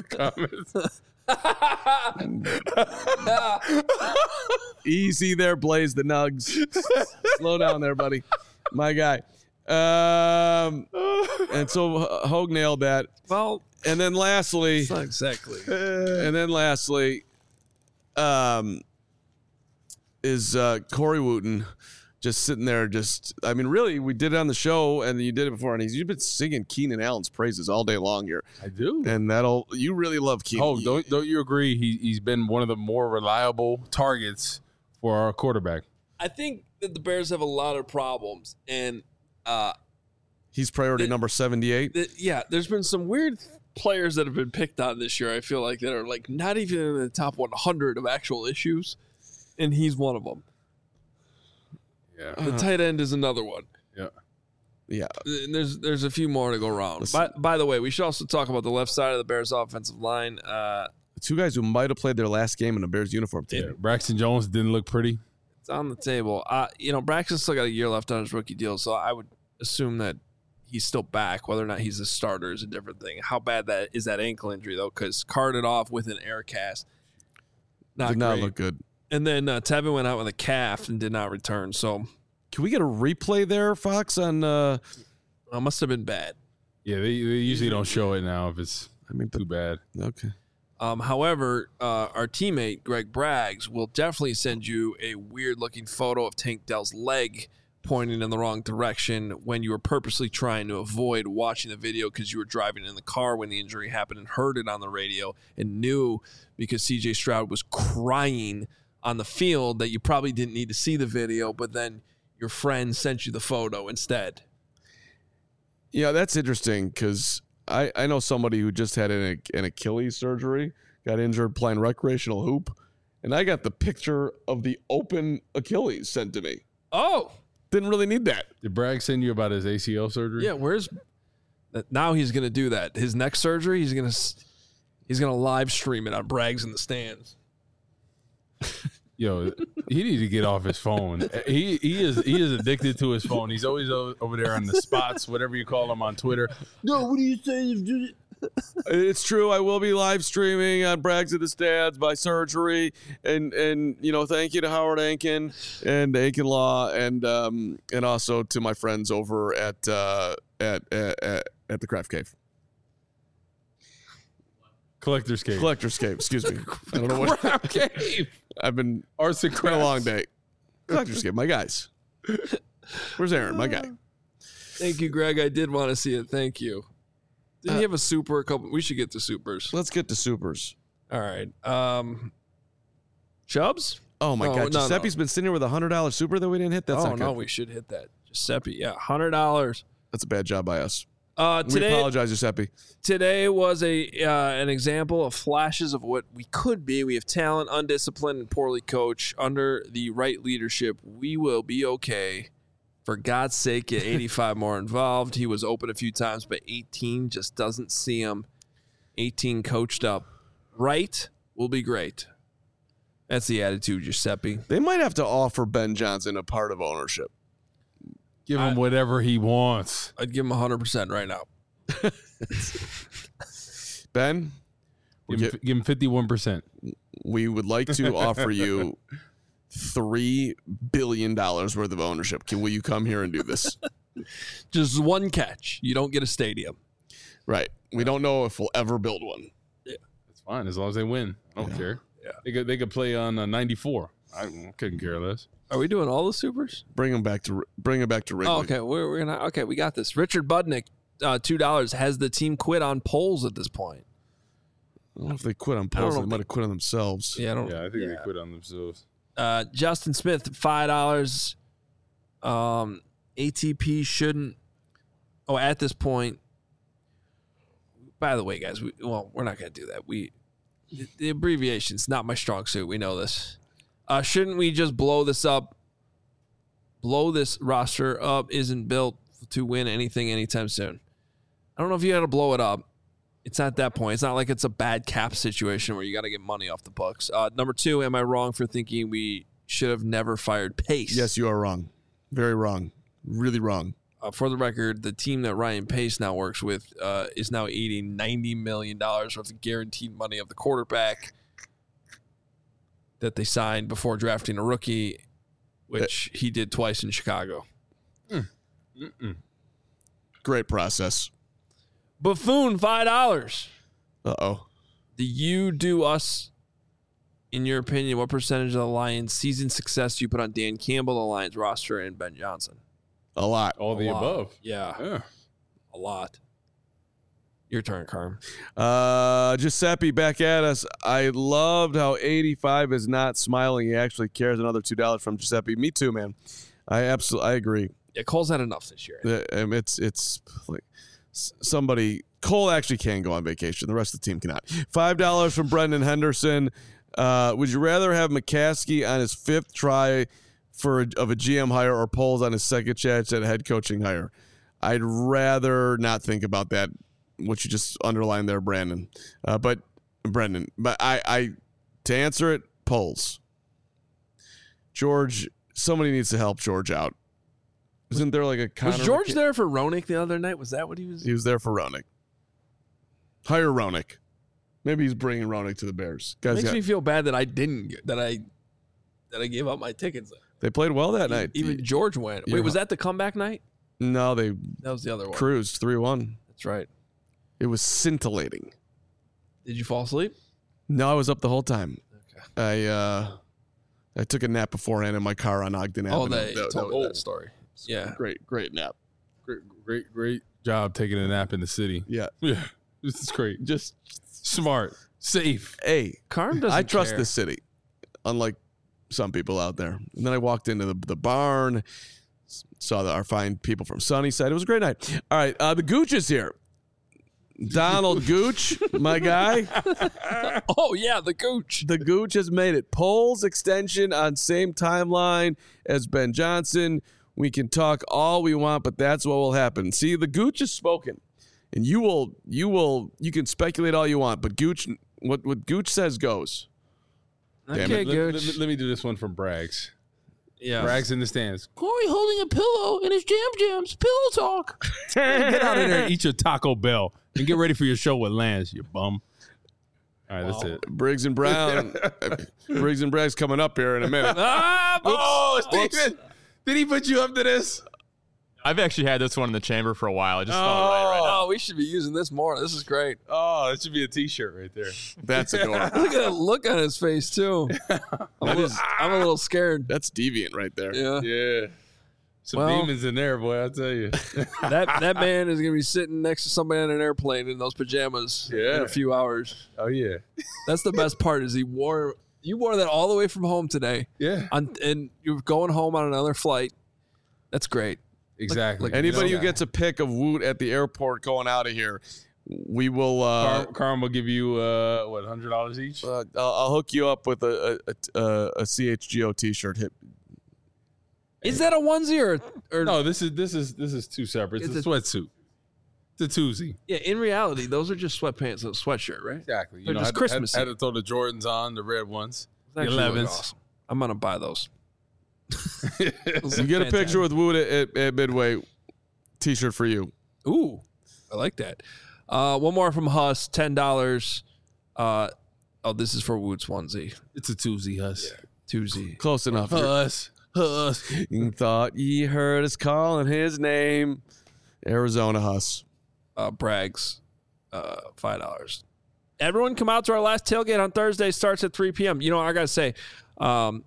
the comments. Easy there, Blaze the Nugs. Slow down there, buddy. My guy. And so Hogue nailed that. Well, and then lastly. It's not exactly. And then lastly, is Corey Wooten just sitting there really, we did it on the show, and you did it before, and you've been singing Keenan Allen's praises all day long here. I do. And you really love Keenan. Oh, don't you agree? He's been one of the more reliable targets for our quarterback. I think that the Bears have a lot of problems, and he's priority number 78. There's been some weird players that have been picked on this year, I feel like, that are like not even in the top 100 of actual issues, and he's one of them. Yeah. The tight end is another one. Yeah. Yeah. And there's a few more to go around. By the way, we should also talk about the left side of the Bears offensive line. Two guys who might have played their last game in a Bears uniform today. Yeah. Braxton Jones didn't look pretty. It's on the table. Braxton still got a year left on his rookie deal, so I would assume that he's still back. Whether or not he's a starter is a different thing. How bad that ankle injury, though, because carted off with an air cast. Did not look good. And then Tevin went out with a calf and did not return. So, can we get a replay there, Fox? On must have been bad. Yeah, they usually don't show it now if it's too bad. Okay. However, our teammate Greg Braggs will definitely send you a weird-looking photo of Tank Dell's leg pointing in the wrong direction when you were purposely trying to avoid watching the video because you were driving in the car when the injury happened and heard it on the radio and knew because C.J. Stroud was crying on the field that you probably didn't need to see the video, but then your friend sent you the photo instead. Yeah, that's interesting because I know somebody who just had an Achilles surgery, got injured playing recreational hoop, and I got the picture of the open Achilles sent to me. Oh. Didn't really need that. Did Bragg send you about his ACL surgery? Yeah, now he's going to do that. His next surgery, he's going to live stream it on Braggs in the Stands. Yo, he needs to get off his phone. He is addicted to his phone. He's always over there on the spots, whatever you call them on Twitter. No, what do you say? It's true. I will be live streaming on Braggs at the Stands by surgery, and thank you to Howard Ankin and Ankin Law, and also to my friends over at the Craft Cave. Collector's Cave. Excuse me. I don't know what. Craft Cave. It's been a long day. Collector's Cave, my guys. Where's Aaron, my guy? Thank you, Greg. I did want to see it. Thank you. Didn't you have a super? We should get to supers. Let's get to supers. All right. Chubbs? Oh, my God. Giuseppe's been sitting here with a $100 super that we didn't hit. That's not good. We should hit that. Giuseppe, yeah. $100. That's a bad job by us. Today, we apologize, Giuseppe. Today was an example of flashes of what we could be. We have talent, undisciplined, and poorly coached. Under the right leadership, we will be okay. For God's sake, get 85 more involved. He was open a few times, but 18 just doesn't see him. 18 coached up. Right will be great. That's the attitude, Giuseppe. They might have to offer Ben Johnson a part of ownership. Give him whatever he wants. I'd give him 100% right now. Ben, Give him 51%. We would like to offer you $3 billion worth of ownership. Will you come here and do this? Just one catch. You don't get a stadium. Right. We don't know if we'll ever build one. Yeah. It's fine as long as they win. I don't care. Yeah. They could play on 94. I couldn't care less. Are we doing all the supers? Bring them back to Wrigley. Oh, okay. We're gonna. Okay, we got this. Richard Budnick, $2. Has the team quit on polls at this point? I don't know if they quit on polls. They might have quit on themselves. Yeah, I think they quit on themselves. Justin Smith, $5. ATP shouldn't. Oh, at this point. By the way, guys, we're not going to do that. The abbreviation's not my strong suit. We know this. Shouldn't we just blow this up? Blow this roster up isn't built to win anything anytime soon. I don't know if you got to blow it up. It's not that point. It's not like it's a bad cap situation where you got to get money off the books. Number 2, am I wrong for thinking we should have never fired Pace? Yes, you are wrong. Very wrong. Really wrong. For the record, the team that Ryan Pace now works with is now eating $90 million worth of guaranteed money of the quarterback that they signed before drafting a rookie, which he did twice in Chicago. Great process. Buffoon, $5. Uh-oh. Do you do us, in your opinion, what percentage of the Lions' season success do you put on Dan Campbell, the Lions roster, and Ben Johnson? A lot. All the above. Yeah. A lot. Your turn, Carm. Giuseppe back at us. I loved how 85 is not smiling. He actually cares. Another $2 from Giuseppe. Me too, man. I agree. Yeah, Cole's had enough this year. It's like somebody. Cole actually can go on vacation. The rest of the team cannot. $5 from Brendan Henderson. Would you rather have McCaskey on his 5th try of a GM hire or Poles on his 2nd chance at a head coaching hire? I'd rather not think about that, what you just underlined there, Brendan. But I to answer it, Poles. George, somebody needs to help George out. Isn't there like a Was George there for Roenick the other night? Was that what he was? He was there for Roenick. Hire Roenick. Maybe he's bringing Roenick to the Bears. Guys, makes me feel bad that I gave up my tickets. They played well that night. Even George went. Wait, was that the comeback night? No, that was the other one. Cruised 3-1. That's right. It was scintillating. Did you fall asleep? No, I was up the whole time. Okay. I took a nap beforehand in my car on Ogden Avenue. Oh, they told me that story. Yeah. Great nap. Great job taking a nap in the city. Yeah. Yeah. This is great. Just smart, safe. Hey, Carm doesn't I trust care. the city, unlike some people out there. And then I walked into the barn, saw our fine people from Sunnyside. It was a great night. All right, the Gooch is here. Donald Gooch, my guy. Oh, yeah, the Gooch. The Gooch has made it. Poles extension on same timeline as Ben Johnson. We can talk all we want, but that's what will happen. See, the Gooch has spoken. And you can speculate all you want, but Gooch, what Gooch says goes. Okay, Gooch. Let me do this one from Braggs. Yeah. Braggs in the stands. Corey holding a pillow in his jams. Pillow talk. Get out of there and eat your Taco Bell and get ready for your show with Lance, you bum. All right, that's it. Briggs and Brown. Briggs and Braggs coming up here in a minute. Steven. Did he put you up to this? I've actually had this one in the chamber for a while. I just felt right now. Oh, we should be using this more. This is great. Oh, that should be a T-shirt right there. That's a good one. Look at that look on his face, too. I'm a little scared. That's deviant right there. Yeah. Some demons in there, boy, I'll tell you. that man is going to be sitting next to somebody on an airplane in those pajamas in a few hours. Oh, yeah. That's the best part is you wore that all the way from home today. Yeah. And you're going home on another flight. That's great. Exactly. Anybody who gets a pic of Woot at the airport going out of here, we will. Carm will give you $100 each. I'll hook you up with a CHGO T-shirt. Is that a onesie or no? This is two separate. It's a sweatsuit. It's a twosie. Yeah, in reality, those are just sweatpants and a sweatshirt, right? Exactly. They're just Christmassy. Had to throw the Jordans on, the red ones, the Actually 11s. awesome. I'm gonna buy those. You get a picture with Woot at Midway. T-shirt for you. Ooh, I like that. One more from Huss, $10. This is for Woots onesie. It's a twosie, Huss. Yeah, twosie. Close enough. Huss. You thought ye heard us calling his name. Arizona Huss. Bragg's, $5. Everyone come out to our last tailgate on Thursday. Starts at 3 p.m. You know, I gotta say, didn't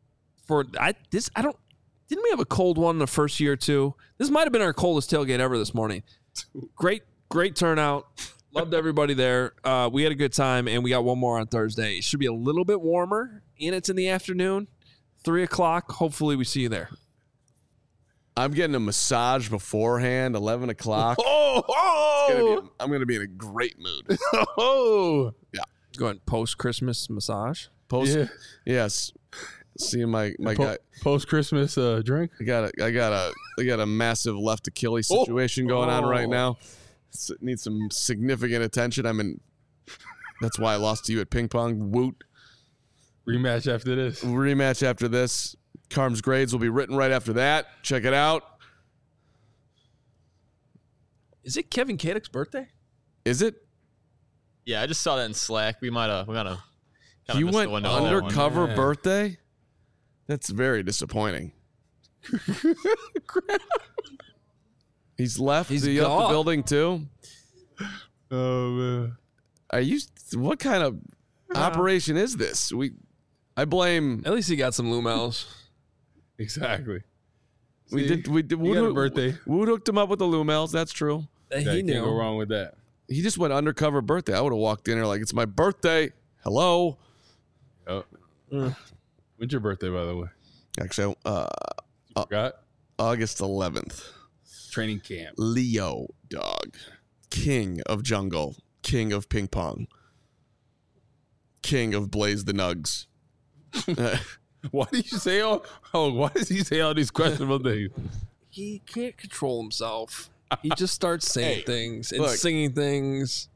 we have a cold one the first year too? This might have been our coldest tailgate ever this morning. Great turnout. Loved everybody there. We had a good time, and we got one more on Thursday. It should be a little bit warmer, and it's in the afternoon, 3 o'clock. Hopefully, we see you there. I'm getting a massage beforehand, 11 o'clock. I'm going to be in a great mood. Yeah. Going post-Christmas massage? Yes. Seeing my guy. Post-Christmas drink? I got a massive left Achilles situation going on right now. Need some significant attention. That's why I lost to you at ping pong. Woot. Rematch after this. Carm's grades will be written right after that. Check it out. Is it Kevin Kadek's birthday? Is it? Yeah, I just saw that in Slack. We went undercover birthday? That's very disappointing. He's left the building too. Oh man. What kind of operation is this? I blame. At least he got some Lumels. Exactly. We did. Wood birthday. Wood hooked him up with the Lumels. That's true. He knew. Can't go wrong with that. He just went undercover birthday. I would have walked in there like, it's my birthday. Hello. Oh. When's your birthday, by the way? Actually, you forgot? August 11th. Training camp. Leo, dog. King of jungle. King of ping pong. King of Blaze the Nugs. Why do you say why does he say all these questionable things? He can't control himself. He just starts saying things and singing things.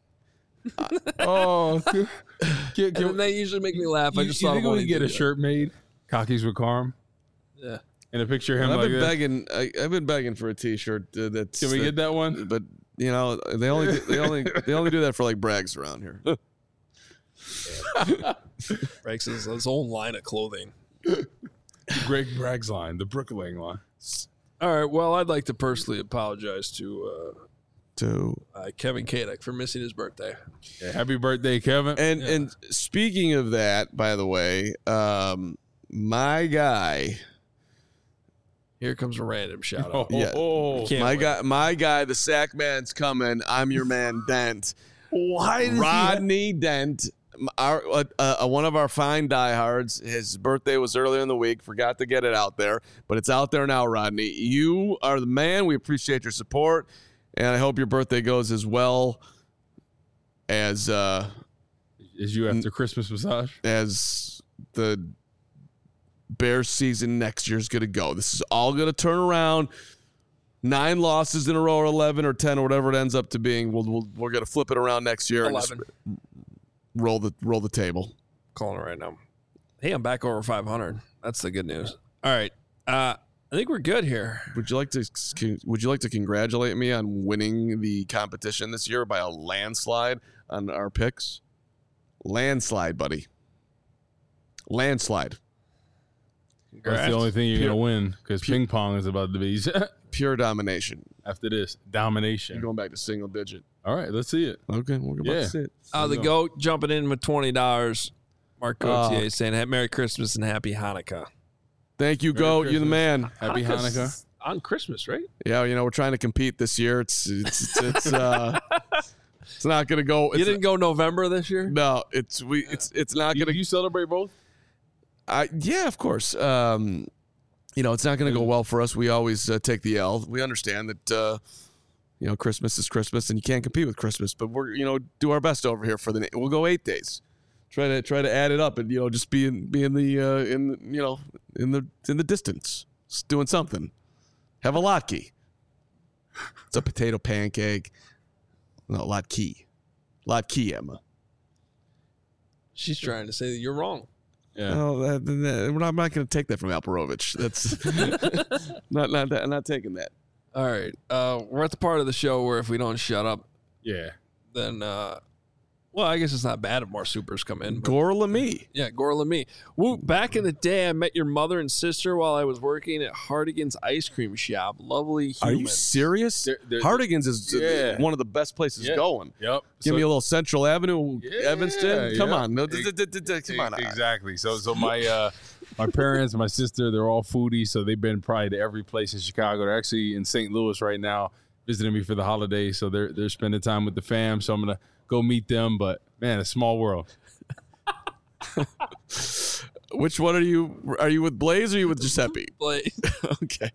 And they usually make me laugh. You think we can get a shirt made? Cockies with Carm? Yeah. And a picture of him I've been begging for a T-shirt. Can we get that one? But they only do that for like Brags around here. Brags has his own line of clothing. Greg Bragg's line, the Brookling line. All right. Well, I'd like to personally apologize to Kevin Kadek for missing his birthday. Yeah, happy birthday, Kevin. And speaking of that, by the way, my guy. Here comes a random shout out. My guy, the sack man's coming. I'm your man, Dent. Why does Rodney Dent? One of our fine diehards. His birthday was earlier in the week. Forgot to get it out there, but it's out there now, Rodney. You are the man. We appreciate your support, and I hope your birthday goes as well as you after Christmas massage, as the Bears season next year is going to go. This is all going to turn around. 9 losses in a row, or 11 or 10 or whatever it ends up to being. We're going to flip it around next year. 11. And roll the table. Calling it right now. Hey, I'm back over 500. That's the good news. All right. I think we're good here. Would you like to congratulate me on winning the competition this year by a landslide on our picks? Landslide, buddy. Landslide. That's the only thing you're going to win because ping pong is about to be pure domination. After this, domination. You're going back to single digit. All right, let's see it. Okay, we're about to see it. The GOAT jumping in with $20. Mark Gauthier saying Merry Christmas and Happy Hanukkah. Thank you, GOAT. You're the man. Happy Hanukkah. On Christmas, right? Yeah, we're trying to compete this year. It's not going to go. You didn't go November this year? No, it's not going to. You celebrate both? Yeah, of course. It's not going to go well for us. We always take the L. We understand that Christmas is Christmas, and you can't compete with Christmas. But we're do our best over here we'll go 8 days. Try to add it up and just be in the distance, just doing something. Have a latke. It's a potato pancake. No, latke, Emma. She's trying to say that you're wrong. Yeah. No, I'm not going to take that from Alperovich. That's not taking that. All right. We're at the part of the show where if we don't shut up, then we'll Well, I guess it's not bad if more supers come in. Gorlami. Yeah, Gorlami. Woo, back in the day, I met your mother and sister while I was working at Hardigan's Ice Cream Shop. Lovely humans. Are you serious? Hardigan's is one of the best places going. Yep. Give me a little Central Avenue, Evanston. Come on. No, come on. Exactly. So my my parents, my sister, they're all foodies, so they've been probably to every place in Chicago. They're actually in St. Louis right now visiting me for the holidays, so they're spending time with the fam, so I'm going to go meet them, but man, a small world. Which one are you? Are you with Blaze or are you with Giuseppe? Blaze. Okay.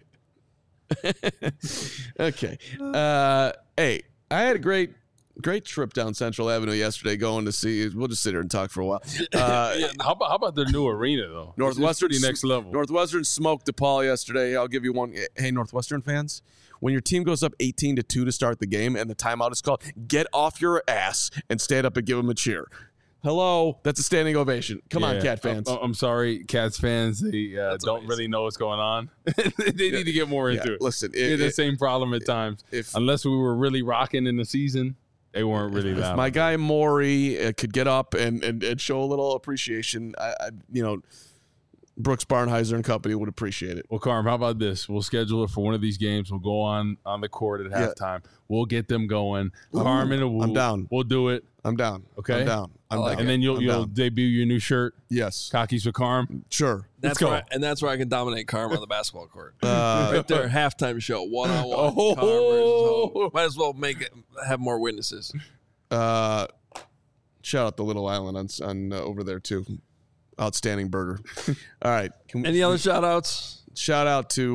Okay. Hey, I had a great trip down Central Avenue yesterday going to see. We'll just sit here and talk for a while. How about their new arena, though? Northwestern, next level. Northwestern smoked DePaul yesterday. I'll give you one. Hey, Northwestern fans, when your team goes up 18-2 to start the game and the timeout is called, get off your ass and stand up and give them a cheer. Hello, that's a standing ovation. Come on, Cat fans. I'm sorry, Cats fans. They don't really know what's going on. They need to get more into it. Listen, the same problem at times. Unless we were really rocking in the season, they weren't really loud. If my guy Maury could get up and show a little appreciation, Brooks Barnheiser and company would appreciate it. Well, Carm, how about this? We'll schedule it for one of these games. We'll go on the court at halftime. We'll get them going. Carm and Awu. I'm down. We'll do it. I'm down. Okay? I'm down. And then you'll debut your new shirt. Yes. Khakis with Carm. Sure. That's where I can dominate Carm on the basketball court. Right there, halftime show, one-on-one. Carm versus Hogue. Might as well have more witnesses. Shout out the Little Island on over there too. Outstanding burger. All right. Any other shout outs? Shout out to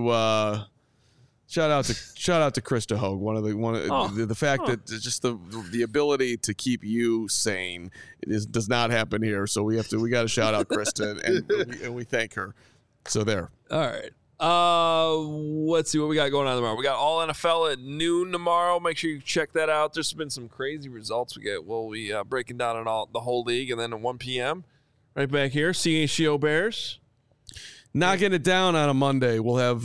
Krista Hogue. The fact that just the ability to keep you sane does not happen here. So we got to shout out Krista and we thank her. So there. All right. Let's see what we got going on tomorrow. We got all NFL at noon tomorrow. Make sure you check that out. There's been some crazy results we'll be breaking down on the whole league, and then at 1 p.m. right back here, CHGO Bears. Knocking it down on a Monday. We'll have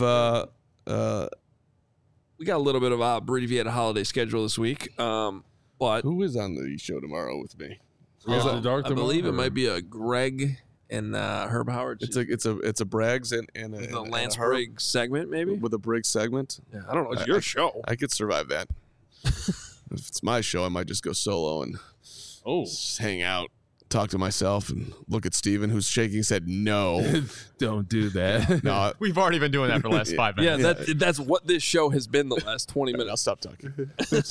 we got a little bit of a abbreviated holiday schedule this week. But who is on the show tomorrow with me? I believe it might be a Greg and Herb Howard. It's a Braggs and a Lance Briggs segment, maybe with a Briggs segment. Yeah, I don't know. It's your show. I could survive that. If it's my show, I might just go solo and just hang out, talk to myself, and look at Steven, who's shaking his head. No, don't do that. No, we've already been doing that for the last 5 minutes. Yeah, that's what this show has been the last 20 minutes. I'll stop talking.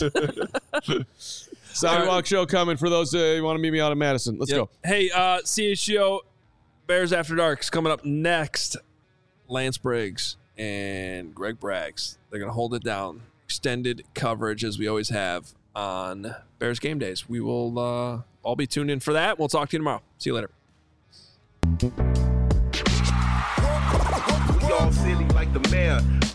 Sidewalk show coming for those you want to meet me out of Madison. Let's go. Hey, CHGO Bears After Dark's coming up next. Lance Briggs and Greg Braggs. They're going to hold it down. Extended coverage as we always have on Bears game days. We will all be tuned in for that. We'll talk to you tomorrow. See you later. We all silly like the mayor.